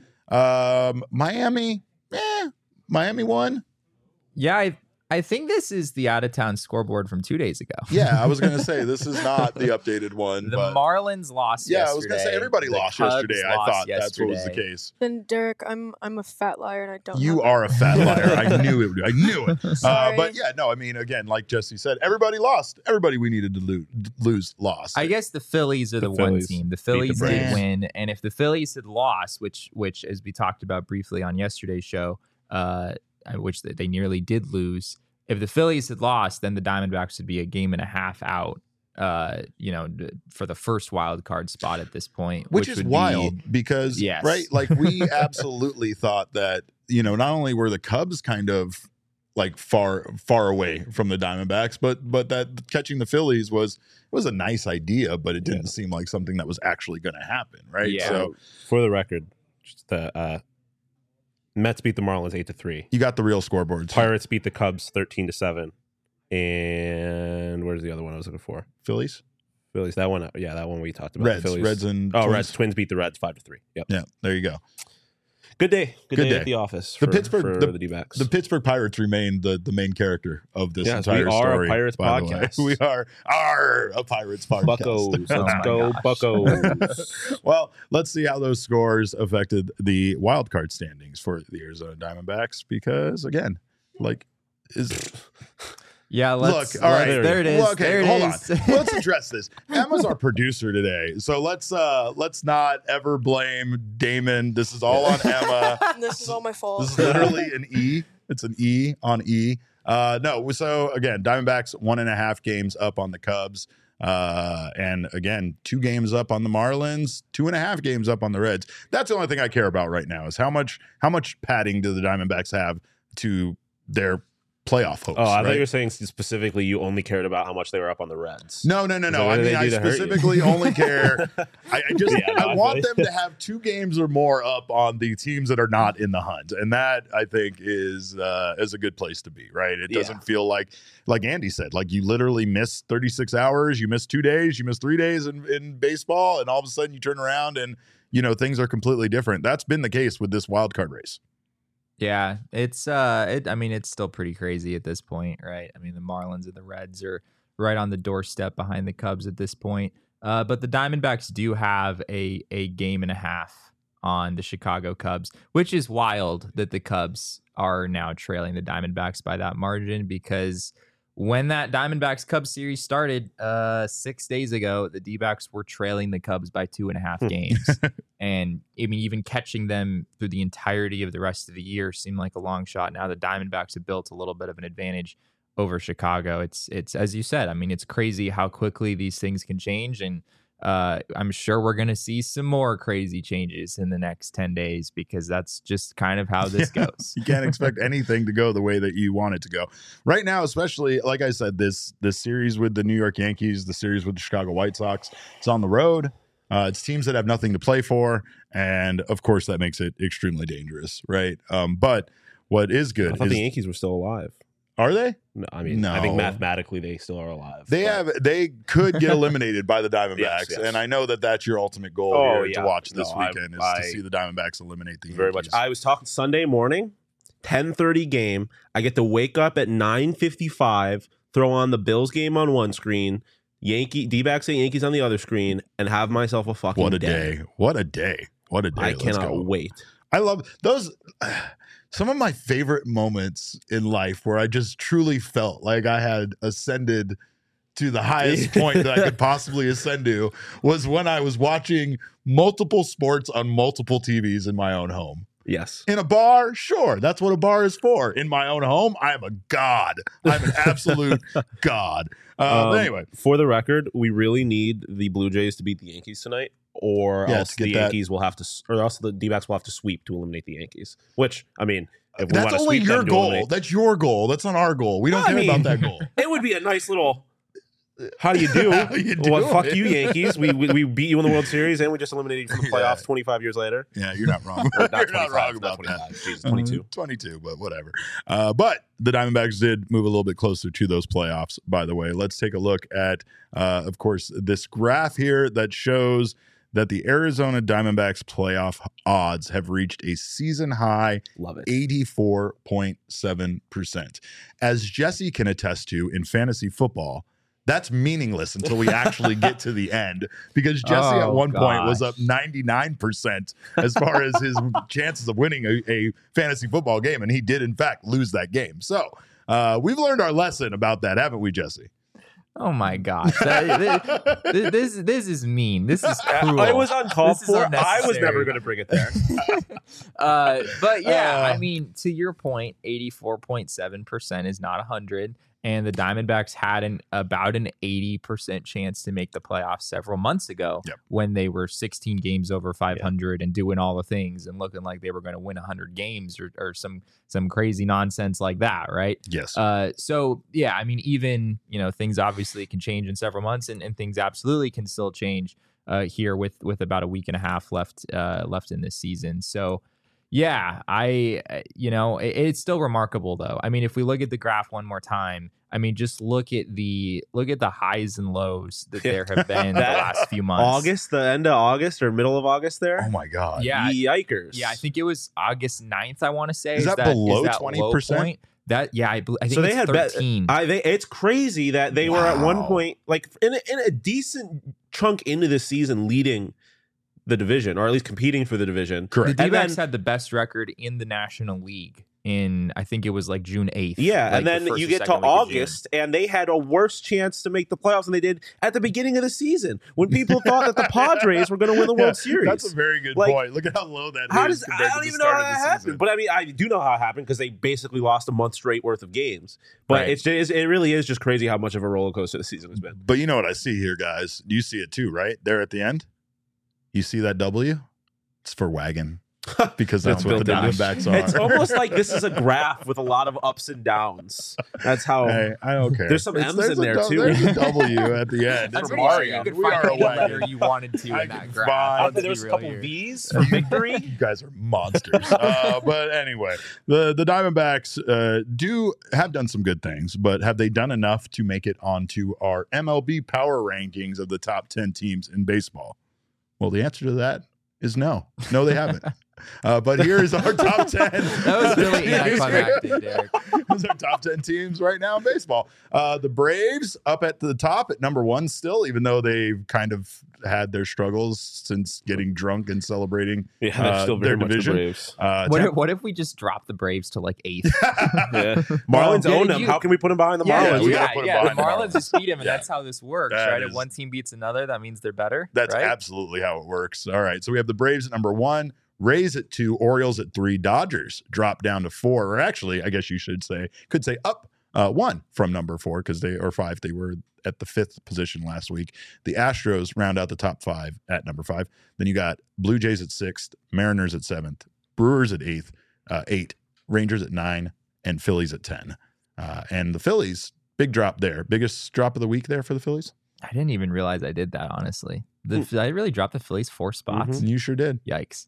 Miami won. Yeah, I think this is the out-of-town scoreboard from 2 days ago. Yeah, I was going to say this is not the updated one. The Marlins lost yesterday. Yeah, I was going to say everybody lost yesterday. I thought that's what was the case. Then Derek, I'm a fat liar and I don't. You are a fat liar. I knew it. I knew it. Sorry. But yeah, no, I mean, again, like Jesse said, everybody lost. Everybody we needed to lose lost. I guess the Phillies are the one team. The Phillies Braves. did win, and if the Phillies had lost, which as we talked about briefly on yesterday's show, which they nearly did lose. If the Phillies had lost, then the Diamondbacks would be a game and a half out, for the first wild card spot at this point. Which is wild because, yes. Right? Like, we absolutely thought that, not only were the Cubs kind of like far away from the Diamondbacks, but that catching the Phillies was a nice idea, but it didn't seem like something that was actually going to happen, right? Yeah. So, for the record, just the Mets beat the Marlins 8-3. you got the real scoreboards. Pirates beat the Cubs 13-7. And where's the other one I was looking for? Phillies? Phillies. That one, that one we talked about. Reds. The Phillies. Reds and Twins. Reds. Twins beat the Reds 5-3. Yep. Yeah, there you go. Good day. Good day day at the office. The For Pittsburgh- the D-backs. The Pittsburgh Pirates remain the main character of this Yes, entire we are story. a Pirates by the way. podcast. We are a Pirates podcast. Buccos. Oh Let's my go, gosh. Buccos. Well, let's see how those scores affected the wild card standings for the Arizona Diamondbacks because, again, Yeah, let's look, all right, there it is. Well, okay, there it hold is. on. Let's address this. Emma's our producer today, so let's not ever blame Damon. This is all on Emma. This is all my fault. This is literally an E. It's an E on E. No, so again, Diamondbacks 1.5 games up on the Cubs. And again, 2 games up on the Marlins, 2.5 games up on the Reds. That's the only thing I care about right now is how much padding do the Diamondbacks have to their playoff hopes. Oh, I thought right? you were saying specifically you only cared about how much they were up on the Reds. No. what I do mean, they I do to hurt you? specifically only care. I I want feel them to have 2 games or more up on the teams that are not in the hunt, and that I think is a good place to be. Right? It doesn't feel like Andy said, like you literally miss 36 hours, you miss 2 days, you miss 3 days in baseball, and all of a sudden you turn around and things are completely different. That's been the case with this wild card race. Yeah, it's it's still pretty crazy at this point, right? I mean, the Marlins and the Reds are right on the doorstep behind the Cubs at this point. But the Diamondbacks do have a game and a half on the Chicago Cubs, which is wild that the Cubs are now trailing the Diamondbacks by that margin because when that Diamondbacks Cubs series started 6 days ago, the D-backs were trailing the Cubs by 2.5 games. And I mean, even catching them through the entirety of the rest of the year seemed like a long shot. Now the Diamondbacks have built a little bit of an advantage over Chicago. It's as you said, I mean, it's crazy how quickly these things can change. And I'm sure we're going to see some more crazy changes in the next 10 days because that's just kind of how this goes. You can't expect anything to go the way that you want it to go. Right now, especially, like I said, this series with the New York Yankees, the series with the Chicago White Sox, it's on the road. It's teams that have nothing to play for. And, of course, that makes it extremely dangerous, right? But what is good I thought is the Yankees were still alive. Are they? No, I mean, No. I think mathematically they still are alive. They could get eliminated by the Diamondbacks, Yes. and I know that that's your ultimate goal Oh, here yeah. to watch this No, weekend is to see the Diamondbacks eliminate the Yankees. very much. I was talking Sunday morning, 10:30 game. I get to wake up at 9:55, throw on the Bills game on one screen, D-backs and Yankees on the other screen, and have myself a fucking What a day. What a day. What a day. I Let's cannot go. wait. I love those. Some of my favorite moments in life where I just truly felt like I had ascended to the highest point that I could possibly ascend to was when I was watching multiple sports on multiple TVs in my own home. Yes. In a bar, sure, that's what a bar is for. In my own home, I am a god. I'm an absolute god. But anyway, for the record, we really need the Blue Jays to beat the Yankees tonight, or Yeah, else to get the that- Yankees will have to, or else the D-backs will have to sweep to eliminate the Yankees. Which, I mean, if we that's want to only sweep your them to goal. eliminate- That's your goal. That's not our goal. We don't I care mean- about that goal. it would be a nice little. How do you do? How you Well, fuck doing? you, Yankees. We beat you in the World Series, and we just eliminated you from the playoffs 25 years later. Yeah, you're not wrong. Or not You're 25, not wrong not about 25. that. Jesus, 22. 22, but whatever. But the Diamondbacks did move a little bit closer to those playoffs, by the way. Let's take a look at, of course, this graph here that shows that the Arizona Diamondbacks playoff odds have reached a season high Love it. 84.7%. As Jesse can attest to in fantasy football, that's meaningless until we actually get to the end, because Jesse at Oh, one point was gosh. up 99% as far as his chances of winning a fantasy football game, and he did in fact lose that game. So we've learned our lesson about that, haven't we, Jesse? Oh my gosh, this is mean. This is cruel. I was uncalled This is for. I was unnecessary. never going to bring it there. But yeah, I mean, to your point, 84.7% is not 100. And the Diamondbacks had about an 80% chance to make the playoffs several months ago when they were 16 games over 500 and doing all the things and looking like they were going to win 100 games or some crazy nonsense like that, right? Yes. So, yeah, I mean, even, things obviously can change in several months and things absolutely can still change here with about a week and a half left in this season. So, yeah, it's still remarkable though. I mean, if we look at the graph one more time, I mean, just look at the highs and lows that there have been the last few months. The end of August or middle of August there? Oh my God. Yeah. Yikers. Yeah, I think it was August 9th, I want to say. Is that below that 20%? low point? I think So they it's had 13. it's crazy that they were at one Wow. point, like in a decent chunk into the season, leading the division, or at least competing for the division. Correct. The And D-backs then- had the best record in the National League in, I think it was like June 8th. Yeah, like and the then first you or get to second week of June. August, and they had a worse chance to make the playoffs than they did at the beginning of the season, when people thought that the Padres were going to win the World Series. That's a very good Like, point. Look at how low that How is does compared I to don't the even know start how of the that happened, season. but I mean I do know how it happened because they basically lost a month straight worth of games. But Right. it really is just crazy how much of a roller coaster the season has been. But you know what I see here, guys? You see it too, right? There at the end. You see that W? It's for wagon. Because that's Oh what my the gosh. Diamondbacks are. It's almost like this is a graph with a lot of ups and downs. That's how. Hey, I don't care. There's some M's there's in there, too. There's a W at the end. I'm It's pretty Mario. sure you could We are find a any letter wagon. you wanted to I in that can graph. find- Let's There was be a real couple here. V's for victory. You guys are monsters. But anyway, the Diamondbacks do have done some good things, but have they done enough to make it onto our MLB power rankings of the top 10 teams in baseball? Well, the answer to that is no. No, they haven't. But here is our top 10. That was really anticlimactic, Derek. Those are top 10 teams right now in baseball. The Braves up at the top at number 1 still, even though they've kind of had their struggles since getting drunk and celebrating Yeah, they're still very their much the division. Braves. What if we just drop the Braves to like 8th? Yeah. Marlins Yeah, own them. you- How can we put them behind the Yeah, Marlins? we gotta put 'em The behind the Marlins Marlins. just beat them, and Yeah. that's how this works, That right? is- If one team beats another, that means they're better. That's right? absolutely how it works. All right. So we have the Braves at number 1, Rays at 2, Orioles at 3, Dodgers drop down to 4, or actually, I guess you could say up 1 from number 4 or 5. They were at the 5th position last week. The Astros round out the top 5 at number 5. Then you got Blue Jays at 6th, Mariners at 7th, Brewers at 8, Rangers at 9, and Phillies at 10. And the Phillies, big drop there. Biggest drop of the week there for the Phillies? I didn't even realize I did that, honestly. I really dropped the Phillies 4 spots. You sure did. Yikes.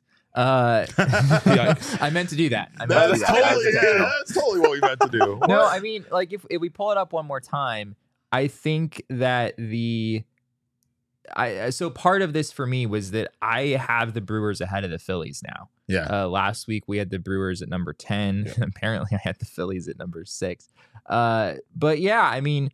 Yikes. I meant to do that. I meant to do That's that. totally, that's totally what we meant to do. No, I mean, like if we pull it up one more time, I think that so part of this for me was that I have the Brewers ahead of the Phillies now. Yeah. Last week we had the Brewers at number 10. Yeah. Apparently I had the Phillies at number 6. But yeah, I mean,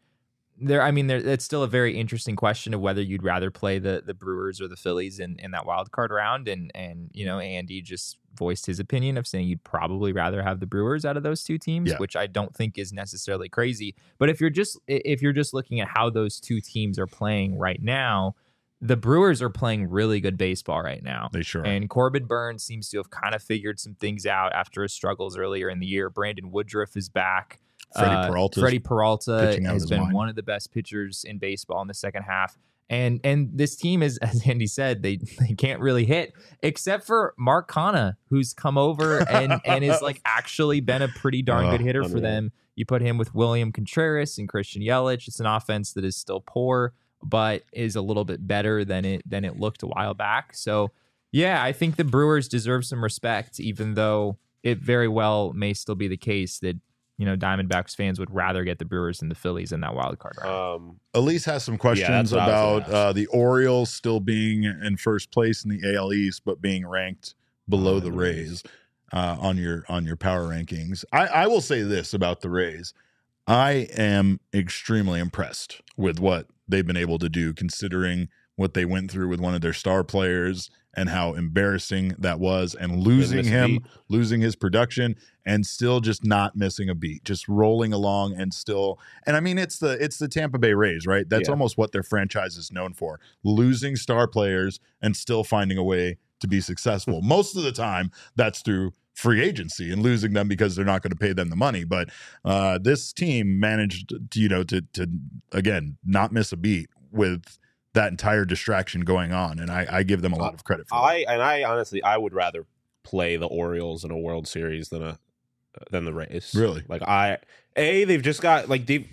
it's still a very interesting question of whether you'd rather play the Brewers or the Phillies in that wild card round. And Andy just voiced his opinion of saying you'd probably rather have the Brewers out of those two teams, which I don't think is necessarily crazy. But if you're just looking at how those two teams are playing right now, the Brewers are playing really good baseball right now. They sure are. And Corbin Burns seems to have kind of figured some things out after his struggles earlier in the year. Brandon Woodruff is back. Freddie Peralta has been one of the best pitchers in baseball in the second half. And this team is, as Andy said, they can't really hit except for Mark Canha, who's come over and is like actually been a pretty darn good hitter for them. You put him with William Contreras and Christian Yelich. It's an offense that is still poor, but is a little bit better than it looked a while back. So yeah, I think the Brewers deserve some respect, even though it very well may still be the case that Diamondbacks fans would rather get the Brewers than the Phillies in that wild card round. Elise has some questions about the Orioles still being in first place in the AL East, but being ranked below the Rays on your power rankings. I will say this about the Rays. I am extremely impressed with what they've been able to do, considering what they went through with one of their star players and how embarrassing that was, and losing his production and still just not missing a beat, just rolling along and still. And I mean, it's the Tampa Bay Rays, right? That's almost what their franchise is known for, losing star players and still finding a way to be successful. Most of the time that's through free agency and losing them because they're not going to pay them the money. But this team managed to again, not miss a beat with that entire distraction going on, and I give them a lot of credit for that. I honestly would rather play the Orioles in a World Series than the Rays. Really? Like they've just got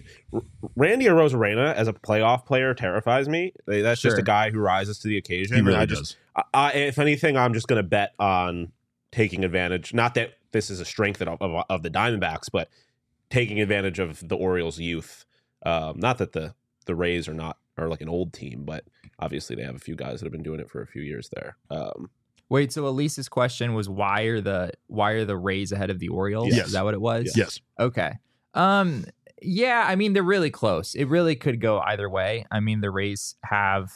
Randy Arozarena as a playoff player terrifies me. That's just a guy who rises to the occasion. He really does. If anything, I'm just going to bet on taking advantage. Not that this is a strength of the Diamondbacks, but taking advantage of the Orioles' youth. Not that the Rays are like an old team, but obviously they have a few guys that have been doing it for a few years there. Wait, so Elise's question was why are the Rays ahead of the Orioles? Yes. Is that what it was? Yes. Okay. Yeah, I mean, they're really close. It really could go either way. I mean, the Rays are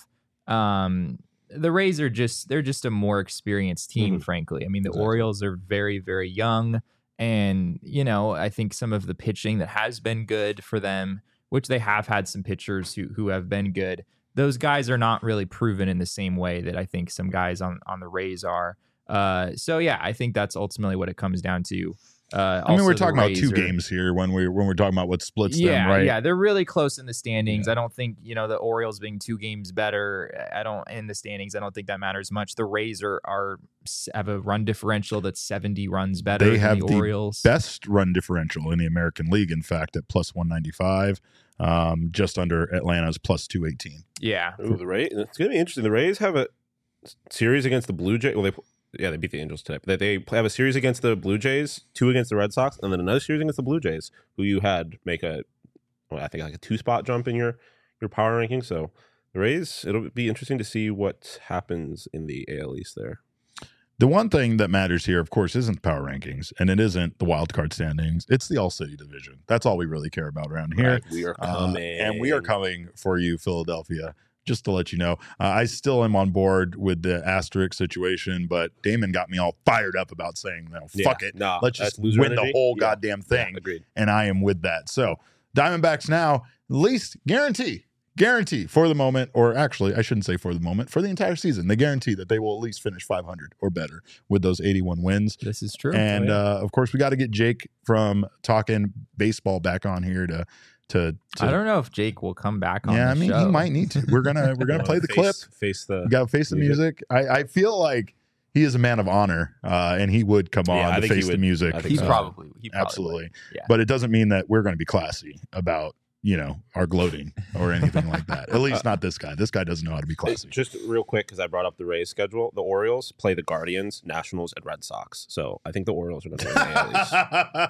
just a more experienced team, frankly. I mean, the Orioles are very, very young, and I think some of the pitching that has been good for them, which they have had some pitchers who have been good, those guys are not really proven in the same way that I think some guys on the Rays are. So yeah, I think that's ultimately what it comes down to. I mean, we're talking about two games here when we're talking about what splits them, right? Yeah, they're really close in the standings. I don't think the Orioles being 2 games better. I don't think that matters much. The Rays have a run differential that's 70 runs better. They have than the Orioles. Best run differential in the American League. In fact, at plus 195, just under Atlanta's plus 218. Yeah, the Rays. It's gonna be interesting. The Rays have a series against the Blue Jays. Well, they beat the Angels today. But they have a series against the Blue Jays, 2 against the Red Sox, and then another series against the Blue Jays, who you had make a 2-spot jump in your power ranking. So the Rays, it'll be interesting to see what happens in the AL East there. The one thing that matters here, of course, isn't the power rankings, and it isn't the wild card standings. It's the All-City division. That's all we really care about around here. Right, we are coming. And we are coming for you, Philadelphia. Just to let you know, I still am on board with the asterisk situation, but Damon got me all fired up about saying, fuck it. Let's just win the whole goddamn thing. Yeah, agreed. And I am with that. So Diamondbacks now, at least guarantee for the moment, or actually I shouldn't say for the moment, for the entire season, they guarantee that they will at least finish 500 or better with those 81 wins. This is true. And of course, we got to get Jake from Talking Baseball back on here to I don't know if Jake will come back on. Yeah, I mean, show. he might need to. We're gonna play the clip. You got to face the music. I feel like he is a man of honor, and he would come on to face the music. He probably absolutely. Would. Yeah. But it doesn't mean that we're going to be classy about our gloating or anything like that. At least not this guy. This guy doesn't know how to be classy. Just real quick, because I brought up the Rays schedule. The Orioles play the Guardians, Nationals, and Red Sox. So I think the Orioles are going to win the AL East.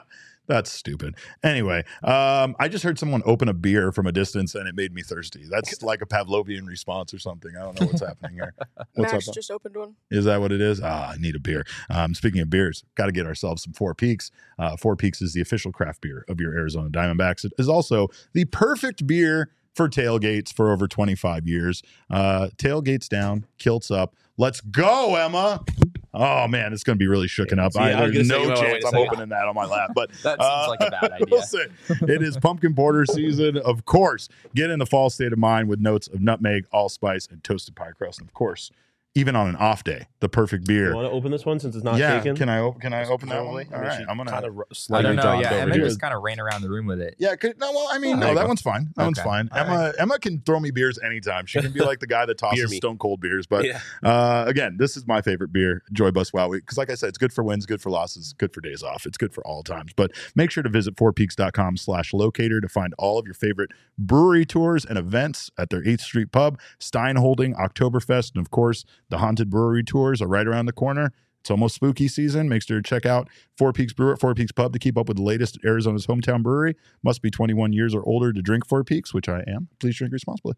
That's stupid. Anyway, I just heard someone open a beer from a distance and it made me thirsty. That's like a Pavlovian response or something. I don't know what's happening here. What's Max up? just opened one. Is that what it is? I need a beer. Speaking of beers, got to get ourselves some Four Peaks. Four Peaks is the official craft beer of your Arizona Diamondbacks. It is also the perfect beer for tailgates for over 25 years. Tailgates down, kilts up. Let's go, Emma. Oh, man, it's going to be really shooken up. There's no chance I'm opening that on my lap. But That seems like a bad idea. Listen, it is pumpkin porter season. Of course, get in the fall state of mind with notes of nutmeg, allspice, and toasted pie crust. And of course, even on an off day, the perfect beer. You want to open this one since it's not Yeah, shaken? can I open that one? All right, I'm gonna kind of I slightly don't know. jogged Yeah, over Emma here. just kind of ran around the room with it. Yeah, there no, you that go. one's fine. That one's Okay. fine. All Emma can throw me beers anytime. She can be like the guy that Beer tosses me. stone cold beers. But Yeah. again, this is my favorite beer, Joy Bus Wow Week, because like I said, it's good for wins, good for losses, good for days off. It's good for all times. But make sure to visit fourpeaks.com/locator to find all of your favorite brewery tours and events at their 8th Street Pub, Stein Holding, Oktoberfest, and of course, the Haunted Brewery tours are right around the corner. It's almost spooky season. Make sure to check out Four Peaks Brewer at Four Peaks Pub to keep up with the latest at Arizona's hometown brewery. Must be 21 years or older to drink Four Peaks, which I am. Please drink responsibly.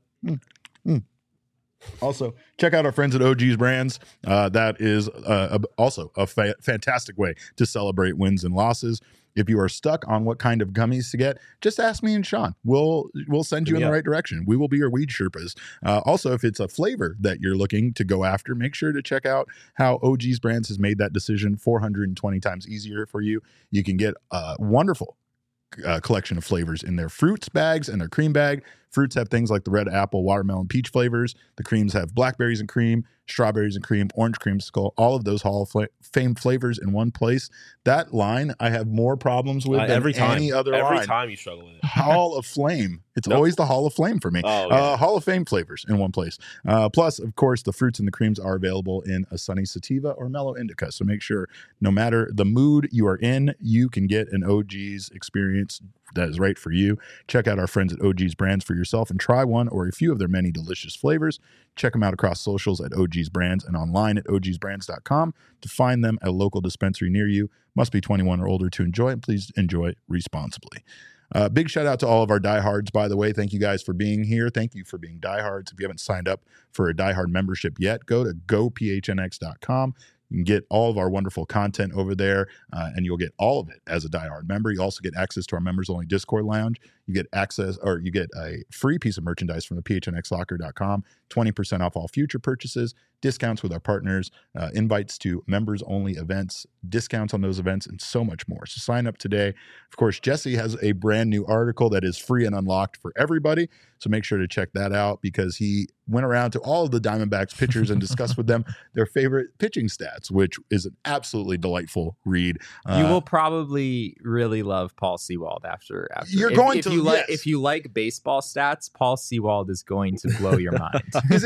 Also, check out our friends at OG's Brands. That is also a fantastic way to celebrate wins and losses. If you are stuck on what kind of gummies to get, just ask me and Sean. We'll send you in the right direction. We will be your weed Sherpas. Also, if it's a flavor that you're looking to go after, make sure to check out how OG's Brands has made that decision 420 times easier for you. You can get a wonderful collection of flavors in their fruits bags and their cream bag. Fruits have things like the red apple, watermelon, peach flavors. The creams have blackberries and cream, strawberries and cream, orange creamsicle, all of those Hall of Fame flavors in one place. That line I have more problems with than any other line. Every time you struggle with it. Hall of Flame. It's always the Hall of Flame for me. Oh, yeah. Hall of Fame flavors in one place. Plus, of course, the fruits and the creams are available in a sunny sativa or mellow indica. So make sure no matter the mood you are in, you can get an OG's experience that is right for you. Check out our friends at OG's Brands for yourself and try one or a few of their many delicious flavors. Check them out across socials at OG's Brands and online at ogsbrands.com to find them at a local dispensary near you. Must be 21 or older to enjoy, and please enjoy responsibly. Big shout out to all of our diehards, by the way. Thank you guys for being here. Thank you for being diehards. If you haven't signed up for a diehard membership yet, go to gophnx.com. You can get all of our wonderful content over there, and you'll get all of it as a diehard member. You also get access to our members-only Discord lounge. You get access, or you get a free piece of merchandise from the phnxlocker.com, 20% off all future purchases, discounts with our partners, invites to members-only events, discounts on those events, and so much more. So sign up today. Of course, Jesse has a brand new article that is free and unlocked for everybody. So make sure to check that out because he went around to all of the Diamondbacks pitchers and discussed with them their favorite pitching stats, which is an absolutely delightful read. You will probably really love Paul Sewald after. You're going to, yes. If you like baseball stats, Paul Sewald is going to blow your mind.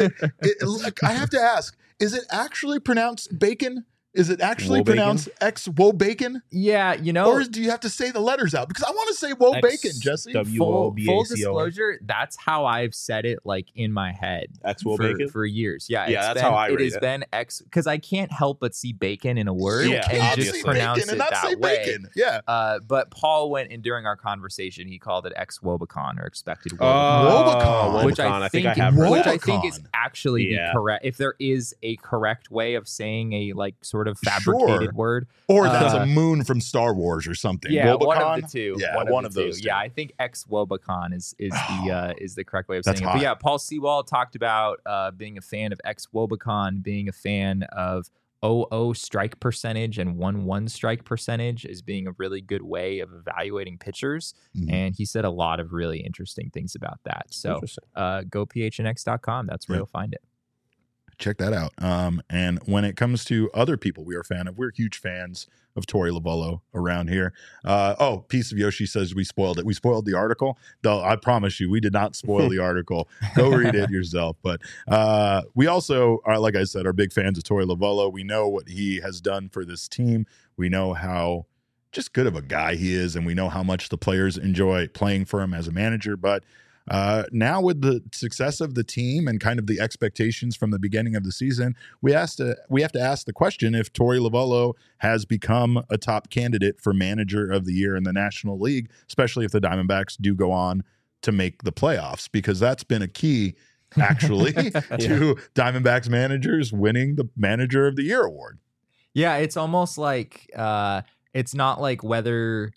I have to ask, is it actually pronounced bacon? Is it actually pronounced X-Wo-Bacon? Yeah, Or do you have to say the letters out? Because I want to say Wo-Bacon, Jesse. Full disclosure, that's how I've said it, like in my head, X-Wo-Bacon for years. Yeah, that's how I read it. It has been X because I can't help but see bacon in a word and just pronounce it that way. Bacon. Yeah. But Paul went and during our conversation, he called it X-Wobacon or expected Wobacon, which I think is actually the correct. If there is a correct way of saying a like sort of fabricated word, or that's a moon from Star Wars or something. Yeah, Wobacon? one of the two. Yeah, one of those two. Yeah, I think X-Wobacon is the correct way of saying it. Hot. But yeah, Paul Sewald talked about being a fan of X-Wobacon, being a fan of 0-0 strike percentage and 1-1 strike percentage as being a really good way of evaluating pitchers. Mm-hmm. And he said a lot of really interesting things about that. So go phnx.com. That's where you'll find it. Check that out. And when it comes to other people we are a fan of, we're huge fans of Torey Lovullo around here. Piece of Yoshi says we spoiled it. We spoiled the article. Though I promise you, we did not spoil the article. Go read it yourself. But we also are, like I said, are big fans of Torey Lovullo. We know what he has done for this team. We know how just good of a guy he is, and we know how much the players enjoy playing for him as a manager. But Now with the success of the team and kind of the expectations from the beginning of the season, we have to ask the question if Torey Lovullo has become a top candidate for manager of the year in the National League, especially if the Diamondbacks do go on to make the playoffs, because that's been a key actually to Diamondbacks managers winning the Manager of the Year award. Yeah, it's almost like it's not like whether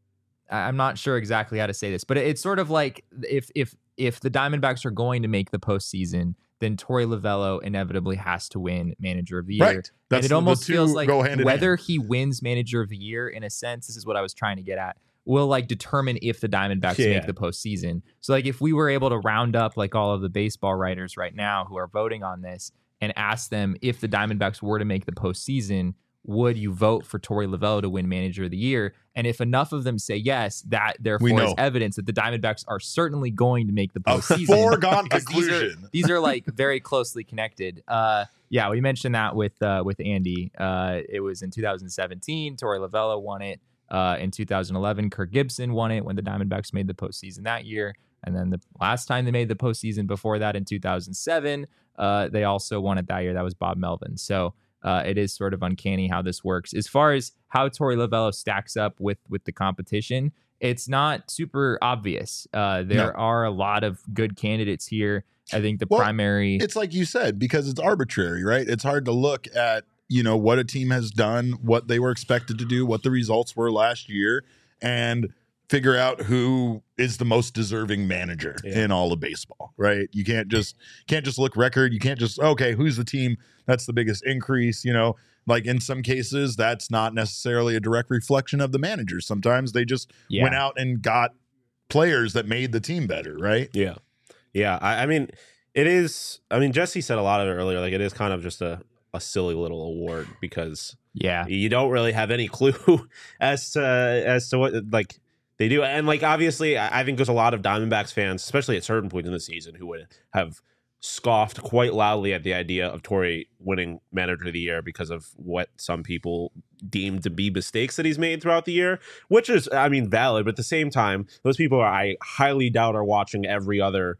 I'm not sure exactly how to say this, but it's sort of like if the Diamondbacks are going to make the postseason, then Torey Lovullo inevitably has to win Manager of the Year. Right. And it almost feels like whether hand. he wins Manager of the Year, in a sense, this is what I was trying to get at, will like determine if the Diamondbacks make the postseason. So like if we were able to round up like all of the baseball writers right now who are voting on this and ask them if the Diamondbacks were to make the postseason, would you vote for Torey Lovullo to win Manager of the Year? And if enough of them say yes, that therefore is evidence that the Diamondbacks are certainly going to make the postseason. A foregone conclusion. These are like very closely connected. Yeah, we mentioned that with Andy. It was in 2017. Torey Lovullo won it. In 2011, Kirk Gibson won it when the Diamondbacks made the postseason that year. And then the last time they made the postseason before that in 2007, they also won it that year. That was Bob Melvin. So it is sort of uncanny how this works. As far as how Torey Lovullo stacks up with the competition, it's not super obvious. There are a lot of good candidates here. I think the primary... It's like you said, because it's arbitrary, right? It's hard to look at what a team has done, what they were expected to do, what the results were last year, and figure out who is the most deserving manager in all of baseball, right? You can't just look record. You can't just, okay, who's the team that's the biggest increase? Like in some cases, that's not necessarily a direct reflection of the managers. Sometimes they just went out and got players that made the team better, right? Yeah. Yeah. I mean, it is, Jesse said a lot of it earlier, like it is kind of just a silly little award because you don't really have any clue as to what like they do. And like obviously I think there's a lot of Diamondbacks fans, especially at certain points in the season, who would have scoffed quite loudly at the idea of Torey winning Manager of the Year because of what some people deemed to be mistakes that he's made throughout the year, which is valid, but at the same time those people I highly doubt are watching every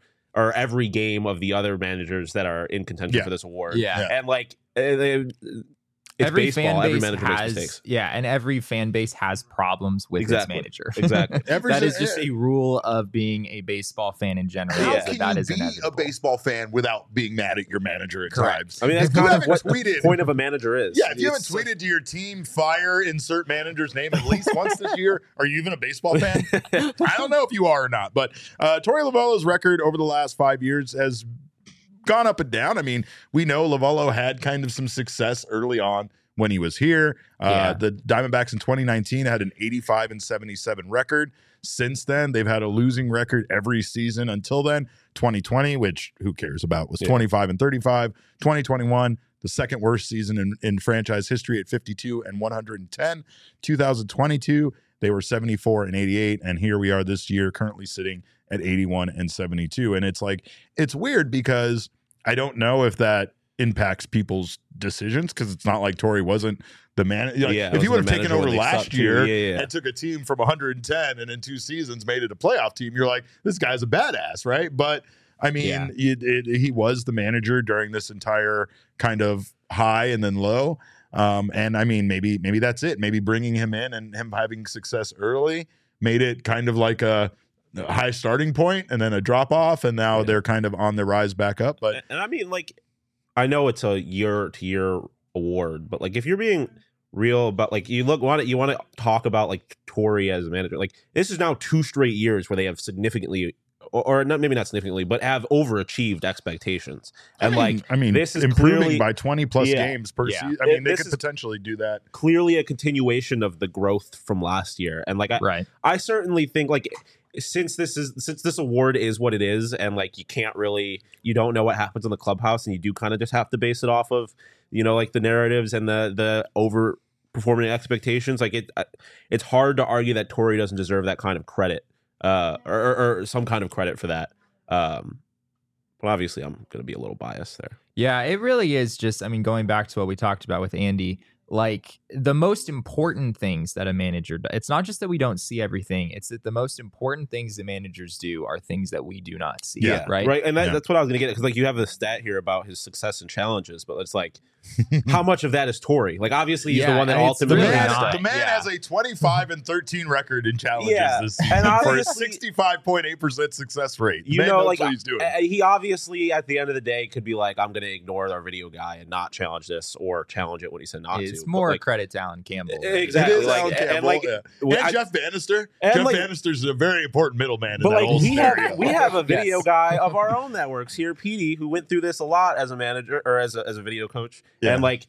game of the other managers that are in contention for this award. And like it's every baseball. fan base every manager makes has mistakes. and every fan base has problems with its manager. Exactly. That is just a rule of being a baseball fan in general. How can that you is be inevitable. a baseball fan without being mad at your manager at times? That's kind of what the point of a manager is. Yeah, if you haven't tweeted to your team, fire insert manager's name at least once this year, are you even a baseball fan? I don't know if you are or not, but Torey Lovullo's record over the last 5 years has gone up and down. We know Lovullo had kind of some success early on when he was here. The Diamondbacks in 2019 had an 85-77 record. Since then, they've had a losing record every season until then. 2020, which who cares about, was 25-35. 2021, the second worst season in franchise history at 52-110. 2022, they were 74-88, and here we are this year, currently sitting at 81-72. And it's like, it's weird because I don't know if that impacts people's decisions, because it's not like Torey wasn't the man. If he would have taken over last year and took a team from 110 and in 2 seasons made it a playoff team, you're like, this guy's a badass, right? But he was the manager during this entire kind of high and then low. And maybe that's it. Maybe bringing him in and him having success early made it kind of like a high starting point and then a drop off, and now they're kind of on the rise back up. But I know it's a year-to-year award, but like if you're being real about like you want to talk about like Torey as a manager, like this is now 2 straight years where they have significantly or not, maybe not significantly, but have overachieved expectations. And this is improving clearly, by 20 plus games per season. They could potentially do that. Clearly a continuation of the growth from last year. And I certainly think like since this award is what it is, and like you don't know what happens in the clubhouse, and you do kind of just have to base it off of like the narratives and the overperforming expectations. Like it's hard to argue that Torey doesn't deserve that kind of credit, or some kind of credit for that. But obviously I'm going to be a little biased there. Yeah, it really is just, going back to what we talked about with Andy, like the most important things that a manager does, it's not just that we don't see everything, it's that the most important things that managers do are things that we do not see. Yeah, right. And that's what I was going to get, because like you have the stat here about his success and challenges, but it's like how much of that is Torrey? Like obviously he's the one that ultimately really the man has a 25-13 record in challenges this season and for a 65.8% success rate. You man know, knows like what he's doing. he obviously at the end of the day could be like, I'm going to ignore our video guy and not challenge this, or challenge it when he said not to. It's more like, credit to Alan Campbell. Exactly. It is like, Alan Campbell, and like, and Jeff Bannister. and Jeff like- Bannister's a very important middleman in But that like whole scenario. we have a video Yes. guy of our own that works here, Petey, who went through this a lot as a manager or as a video coach. Yeah. And like,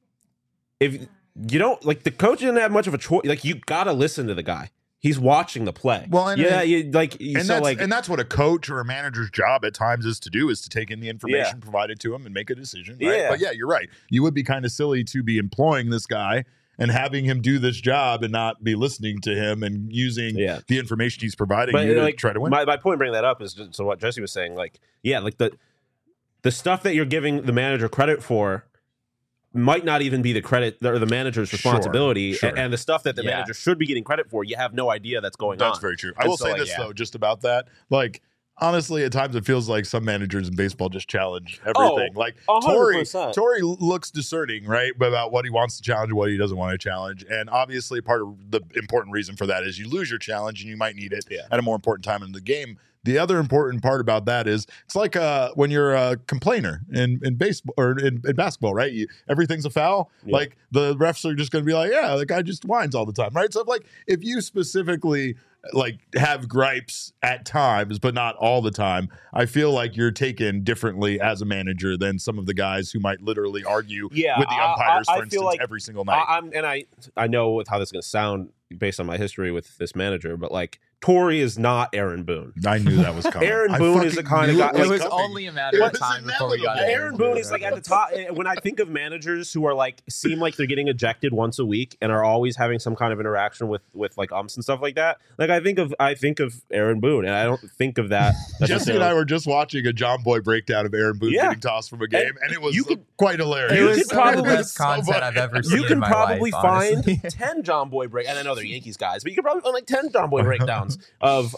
if you don't like, the coach didn't have much of a choice. Like, you gotta listen to the guy. He's watching the play. Well, and and that's what a coach or a manager's job at times is to do, is to take in the information provided to him and make a decision. Right? Yeah. But yeah, you're right. You would be kind of silly to be employing this guy and having him do this job and not be listening to him and using the information he's providing you to try to win. My point in bringing that up is just so what Jesse was saying. Like, yeah, like the stuff that you're giving the manager credit for might not even be the credit or the manager's responsibility, Sure. and the stuff that the manager should be getting credit for, you have no idea that's going on. That's very true. I will say this though, just about that, like, honestly, at times it feels like some managers in baseball just challenge everything. Like 100%. Torrey looks discerning, right, about what he wants to challenge and what he doesn't want to challenge. And obviously, part of the important reason for that is you lose your challenge and you might need it at a more important time in the game. The other important part about that is it's like when you're a complainer in baseball or in basketball, right? Everything's a foul. Yeah. Like the refs are just going to be like, yeah, the guy just whines all the time, right? So like if you specifically like have gripes at times, but not all the time, I feel like you're taken differently as a manager than some of the guys who might literally argue with the umpires, for instance, like every single night. I know how this is going to sound based on my history with this manager, but like, Torrey is not Aaron Boone. I knew that was coming. Aaron Boone is the kind of guy. It was only a matter of time before we got Aaron Boone is like at the top. When I think of managers who are like seem like they're getting ejected once a week and are always having some kind of interaction with like umps and stuff like that, like I think of Aaron Boone, and I don't think of that. Jesse and I were just watching a John Boy breakdown of Aaron Boone getting tossed from a game, and it was quite hilarious. It was probably the best content I've ever seen. You can in my probably life, find honestly. 10 John Boy break, and I know they're Yankees guys, but you can probably find like 10 John Boy breakdowns of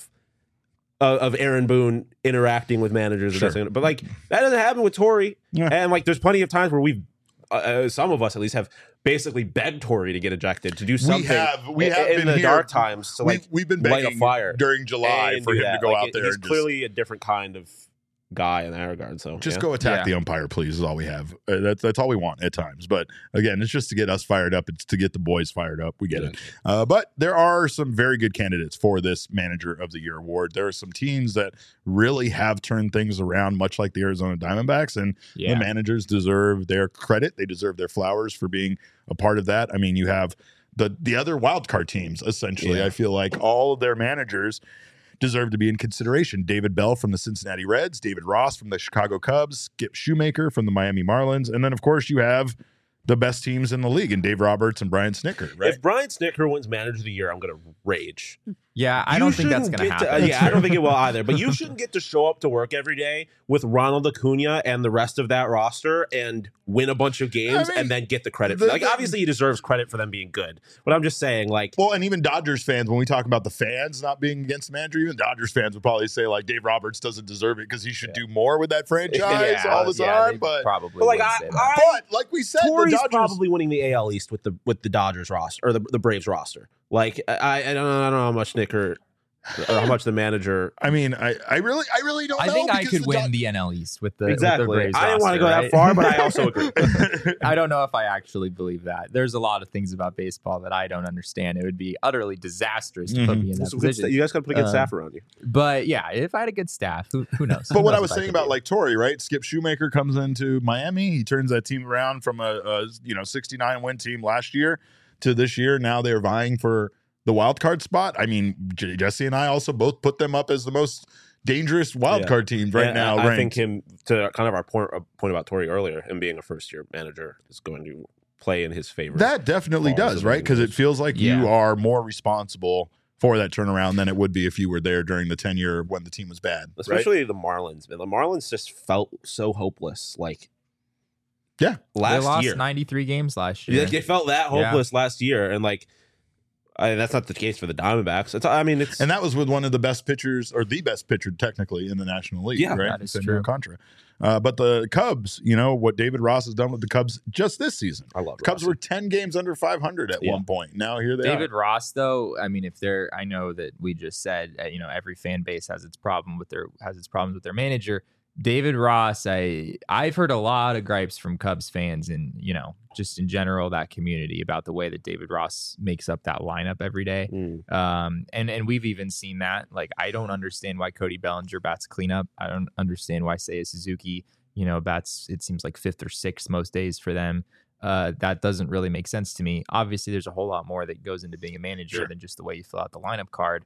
Aaron Boone interacting with managers. Sure. But like that doesn't happen with Torrey. Yeah. And like there's plenty of times where we've some of us at least have basically begged Torrey to get ejected, to do something. We have in been the here, dark times to like we've been light begging a fire during July and for do him that. to go Like, out there. He's and clearly a different kind of guy in that regard. So just go attack the umpire, please. Is all we have. That's all we want at times. But again, it's just to get us fired up. It's to get the boys fired up. We get it. But there are some very good candidates for this Manager of the Year award. There are some teams that really have turned things around, much like the Arizona Diamondbacks, and the managers deserve their credit. They deserve their flowers for being a part of that. I mean, you have the other wild card teams. Essentially, I feel like all of their managers deserve to be in consideration. David Bell from the Cincinnati Reds, David Ross from the Chicago Cubs, Skip Shoemaker from the Miami Marlins, and then of course you have the best teams in the league, and Dave Roberts and Brian Snitker, right? If Brian Snitker wins Manager of the Year, I'm going to rage. Yeah, I don't think that's going to happen. I don't think it will either. But you shouldn't get to show up to work every day with Ronald Acuna and the rest of that roster and win a bunch of games and then get the credit. Obviously, he deserves credit for them being good. But I'm just saying, like... Well, and even Dodgers fans, when we talk about the fans not being against the manager, even Dodgers fans would probably say, like, Dave Roberts doesn't deserve it because he should do more with that franchise all the time. But probably like, but like we said, Torrey's the Dodgers... probably winning the AL East with the Dodgers roster, or the Braves roster. Like, I don't know how much Snitker... or how much the manager. I mean, I really don't know. I think I could win the NL East with the exactly. With the Braves I didn't want to go roster, that far, but I also agree. I don't know if I actually believe that. There's a lot of things about baseball that I don't understand. It would be utterly disastrous to put me in that position. You guys got to put a good staff around you. But yeah, if I had a good staff, who knows? But what I was saying about like Torrey, right? Skip Shoemaker comes into Miami. He turns that team around from a 69 win team last year to this year. Now they're vying for the wild card spot. I mean, Jesse and I also both put them up as the most dangerous wild card teams right now. I think him, to kind of our point about Torrey earlier, him being a first year manager is going to play in his favor. That definitely does, right? Because it feels like you are more responsible for that turnaround than it would be if you were there during the tenure when the team was bad. Especially the Marlins. Man, the Marlins just felt so hopeless. Like, Yeah. They last lost year. 93 games last year. Like, they felt that hopeless last year, and like that's not the case for the Diamondbacks. And that was with one of the best pitchers, or the best pitcher technically in the National League. Yeah, right? that is Sandy true. Alcantara. But the Cubs, what David Ross has done with the Cubs just this season. I love The Cubs Rossi. were 10 games under 500 at one point. Now here they David are. Ross, though, I mean, I know that we just said, every fan base has its problems with their manager. David Ross, I've heard a lot of gripes from Cubs fans and, just in general, that community about the way that David Ross makes up that lineup every day. And we've even seen that. Like, I don't understand why Cody Bellinger bats cleanup. I don't understand why Seiya Suzuki, bats, it seems like 5th or 6th most days for them. That doesn't really make sense to me. Obviously, there's a whole lot more that goes into being a manager than just the way you fill out the lineup card.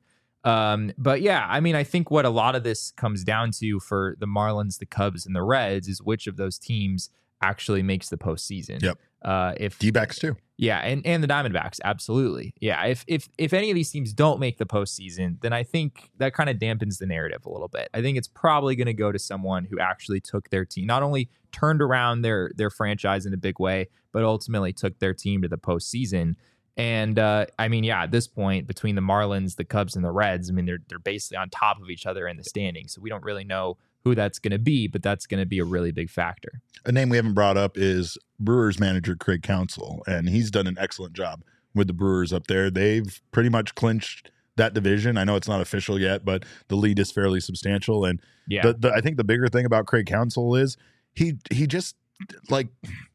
But yeah, I mean, I think what a lot of this comes down to for the Marlins, the Cubs, and the Reds is which of those teams actually makes the postseason. Yep. If D-backs too. Yeah, and the Diamondbacks, absolutely. Yeah, if any of these teams don't make the postseason, then I think that kind of dampens the narrative a little bit. I think it's probably going to go to someone who actually took their team, not only turned around their franchise in a big way, but ultimately took their team to the postseason. And I mean, yeah, at this point, between the Marlins, the Cubs, and the Reds, I mean, they're basically on top of each other in the standings. So we don't really know who that's going to be, but that's going to be a really big factor. A name we haven't brought up is Brewers manager Craig Counsell, and he's done an excellent job with the Brewers up there. They've pretty much clinched that division. I know it's not official yet, but the lead is fairly substantial. And Yeah. I think the bigger thing about Craig Counsell is he just like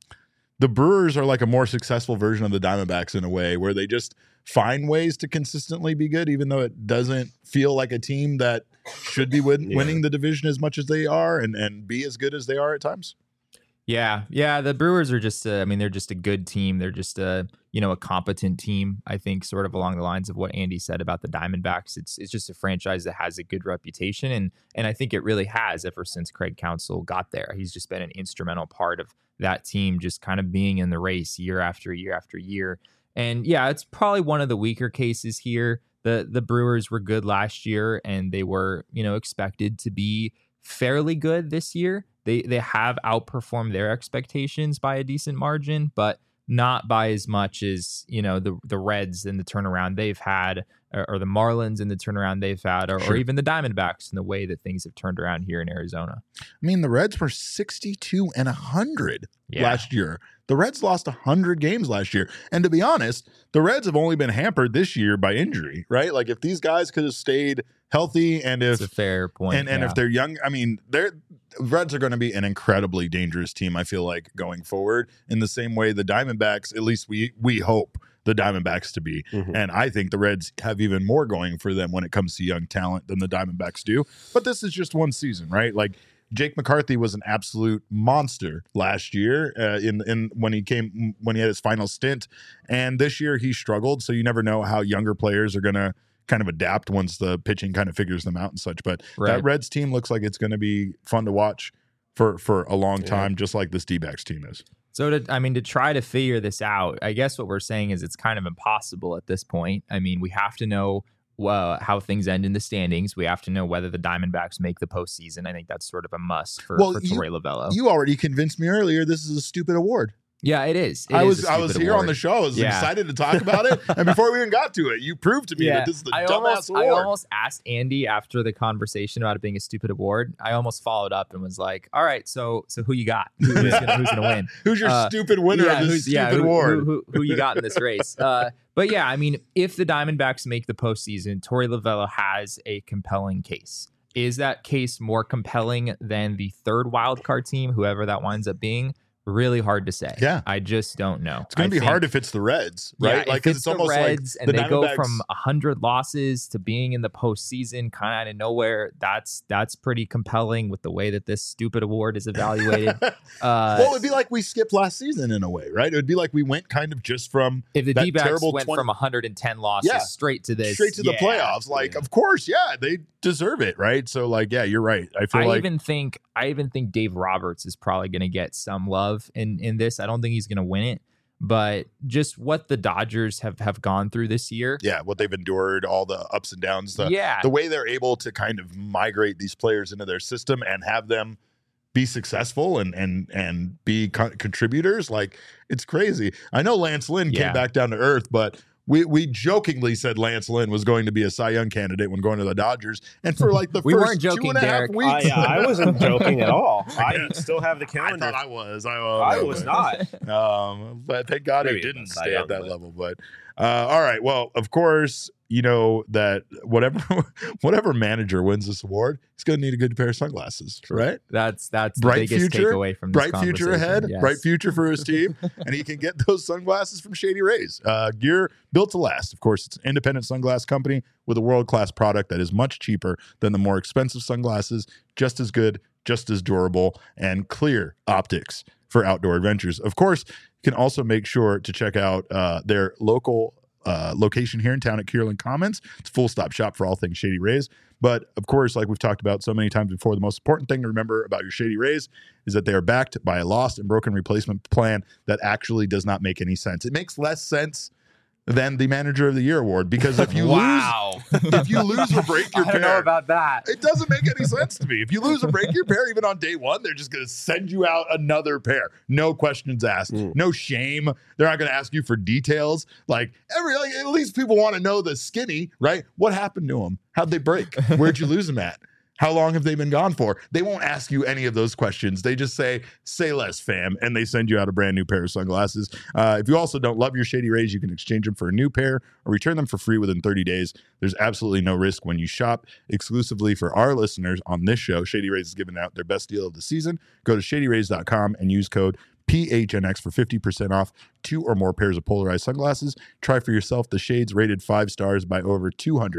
the Brewers are like a more successful version of the Diamondbacks in a way where they just find ways to consistently be good, even though it doesn't feel like a team that should be winning the division as much as they are and be as good as they are at times. Yeah. The Brewers are just, they're just a good team. They're just a competent team. I think sort of along the lines of what Andy said about the Diamondbacks. It's just a franchise that has a good reputation, and I think it really has ever since Craig Counsell got there. He's just been an instrumental part of that team, just kind of being in the race year after year after year. And yeah, it's probably one of the weaker cases here. The Brewers were good last year, and they were expected to be fairly good this year. They have outperformed their expectations by a decent margin, but not by as much as the Reds and the turnaround they've had, or the Marlins and the turnaround they've had, or even the Diamondbacks and the way that things have turned around here in Arizona. I mean, the Reds were 62-100 last year. The Reds lost 100 games last year. And to be honest, the Reds have only been hampered this year by injury, right? Like if these guys could have stayed healthy and if That's a fair point. and if they're young, I mean, Reds are going to be an incredibly dangerous team, I feel like, going forward in the same way the Diamondbacks, at least we hope the Diamondbacks to be. Mm-hmm. And I think the Reds have even more going for them when it comes to young talent than the Diamondbacks do. But this is just one season, right? Like Jake McCarthy was an absolute monster last year in when he had his final stint. And this year he struggled. So you never know how younger players are going to kind of adapt once the pitching kind of figures them out and such. But that Reds team looks like it's going to be fun to watch for a long time, just like this D-backs team is. So to try to figure this out, I guess what we're saying is it's kind of impossible at this point. I mean, we have to know how things end in the standings. We have to know whether the Diamondbacks make the postseason. I think that's sort of a must for Torey Lovullo. You already convinced me earlier this is a stupid award. Yeah, it is. I was here on the show. I was excited to talk about it. And before we even got to it, you proved to me that this is the dumbass award. I almost asked Andy after the conversation about it being a stupid award. I almost followed up and was like, all right, so who you got? Who's gonna win? Who's your stupid winner of this stupid award? Who you got in this race? But yeah, I mean, if the Diamondbacks make the postseason, Torey Lovullo has a compelling case. Is that case more compelling than the third wild card team, whoever that winds up being? Really hard to say. Yeah. I just don't know. It's going to be hard if it's the Reds, right? Yeah, like if it's almost the Reds like and they go from 100 losses to being in the postseason kind of out of nowhere, that's pretty compelling with the way that this stupid award is evaluated. Well, it would be like we skipped last season in a way, right? It would be like we went kind of just from if the D-backs went from 110 losses straight to this. Straight to the playoffs. Like, of course, they deserve it, right? So like, yeah, you're right. I even think Dave Roberts is probably going to get some love in this. I don't think he's going to win it, but just what the Dodgers have gone through this year. Yeah, what they've endured, all the ups and downs, the way they're able to kind of migrate these players into their system and have them be successful and be contributors. Like, it's crazy. I know Lance Lynn came back down to earth, but we jokingly said Lance Lynn was going to be a Cy Young candidate when going to the Dodgers, and for like the we first weren't joking, 2.5 Derek. weeks, I wasn't joking at all. I still have the calendar. I thought I was. I was not. But thank God Maybe it didn't Cy stay Young, at that but- level. But all right. Well, of course, you know that whatever manager wins this award, he's going to need a good pair of sunglasses, right? That's the Bright biggest future, takeaway from this bright future conversation. ahead, Yes. bright future for his team, and he can get those sunglasses from Shady Rays. Gear built to last. Of course, it's an independent sunglass company with a world-class product that is much cheaper than the more expensive sunglasses, just as good, just as durable, and clear optics for outdoor adventures. Of course, you can also make sure to check out their local location here in town at Kierland Commons. It's a full stop shop for all things Shady Rays. But of course, like we've talked about so many times before, the most important thing to remember about your Shady Rays is that they are backed by a lost and broken replacement plan that actually does not make any sense. It makes less sense than the Manager of the Year award, because if you lose or break your I don't know pair, about that. it doesn't make any sense to me. If you lose or break your pair, even on day one, they're just going to send you out another pair. No questions asked. No shame. They're not going to ask you for details. Like at least people want to know the skinny, right? What happened to them? How'd they break? Where'd you lose them at? How long have they been gone for? They won't ask you any of those questions. They just say less, fam, and they send you out a brand new pair of sunglasses. If you also don't love your Shady Rays, you can exchange them for a new pair or return them for free within 30 days. There's absolutely no risk when you shop exclusively for our listeners on this show. Shady Rays is giving out their best deal of the season. Go to shadyrays.com and use code PHNX for 50% off 2 or more pairs of polarized sunglasses. Try for yourself the shades rated 5 stars by over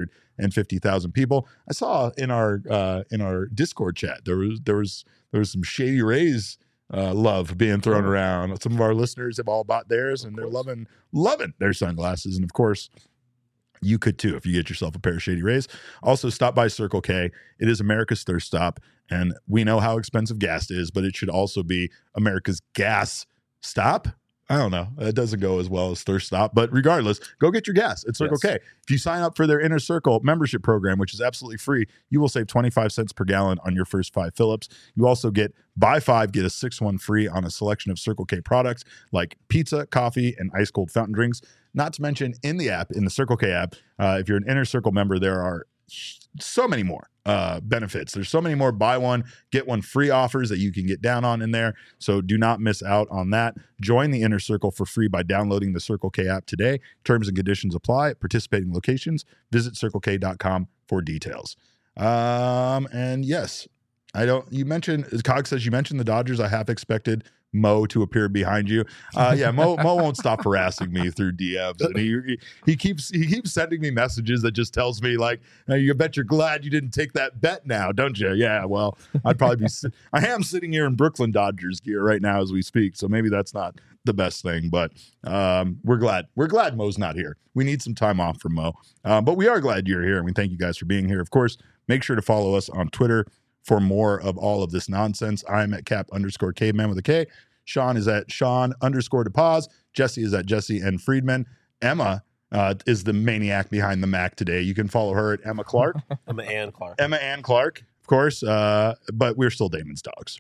250,000 people. I saw in our Discord chat there was some Shady Rays love being thrown around. Some of our listeners have all bought theirs, and they're loving their sunglasses. And of course, you could too if you get yourself a pair of Shady Rays. Also, stop by Circle K. It is America's thirst stop, and we know how expensive gas is, but it should also be America's gas stop. I don't know. It doesn't go as well as thirst stop, but regardless, go get your gas at Circle K. If you sign up for their Inner Circle membership program, which is absolutely free, you will save 25 cents per gallon on your first 5 fill-ups. You also get buy 5, get a 6th one free on a selection of Circle K products like pizza, coffee, and ice cold fountain drinks. Not to mention in the Circle K app, if you're an Inner Circle member, there are so many more benefits. There's so many more buy one, get one free offers that you can get down on in there. So do not miss out on that. Join the Inner Circle for free by downloading the Circle K app today. Terms and conditions apply at participating locations. Visit circlek.com for details. And yes, you mentioned, Cog says you mentioned the Dodgers. I half expected Mo to appear behind you. Mo won't stop harassing me through DMs, and he keeps sending me messages that just tells me like, you bet you're glad you didn't take that bet now, don't you? Yeah, well, I'd probably be. I am sitting here in Brooklyn Dodgers gear right now as we speak, so maybe that's not the best thing, but we're glad Mo's not here. We need some time off from Mo, but we are glad you're here, and we thank you guys for being here. Of course, make sure to follow us on Twitter for more of all of this nonsense. I'm at Cap_Caveman with a K. Sean is at Sean_DePaz. Jesse is at Jesse and Friedman. Emma is the maniac behind the Mac today. You can follow her at Emma Clark. Emma Ann Clark. Emma Ann Clark, of course. But we're still Damon's dogs.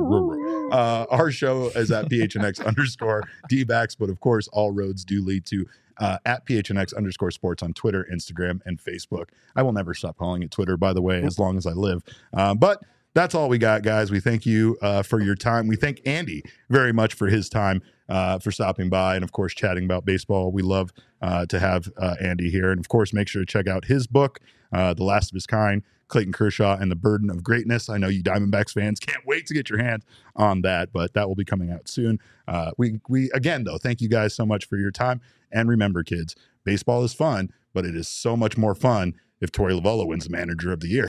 Our show is at PHNX_D-backs. But of course, all roads do lead to at PHNX_sports on Twitter, Instagram, and Facebook. I will never stop calling it Twitter, by the way, as long as I live. But that's all we got, guys. We thank you for your time. We thank Andy very much for his time, for stopping by and, of course, chatting about baseball. We love to have Andy here. And, of course, make sure to check out his book, The Last of His Kind, Clayton Kershaw and the Burden of Greatness. I know you Diamondbacks fans can't wait to get your hands on that, but that will be coming out soon. We again, though, thank you guys so much for your time. And remember, kids, baseball is fun, but it is so much more fun if Torey Lovullo wins the Manager of the Year.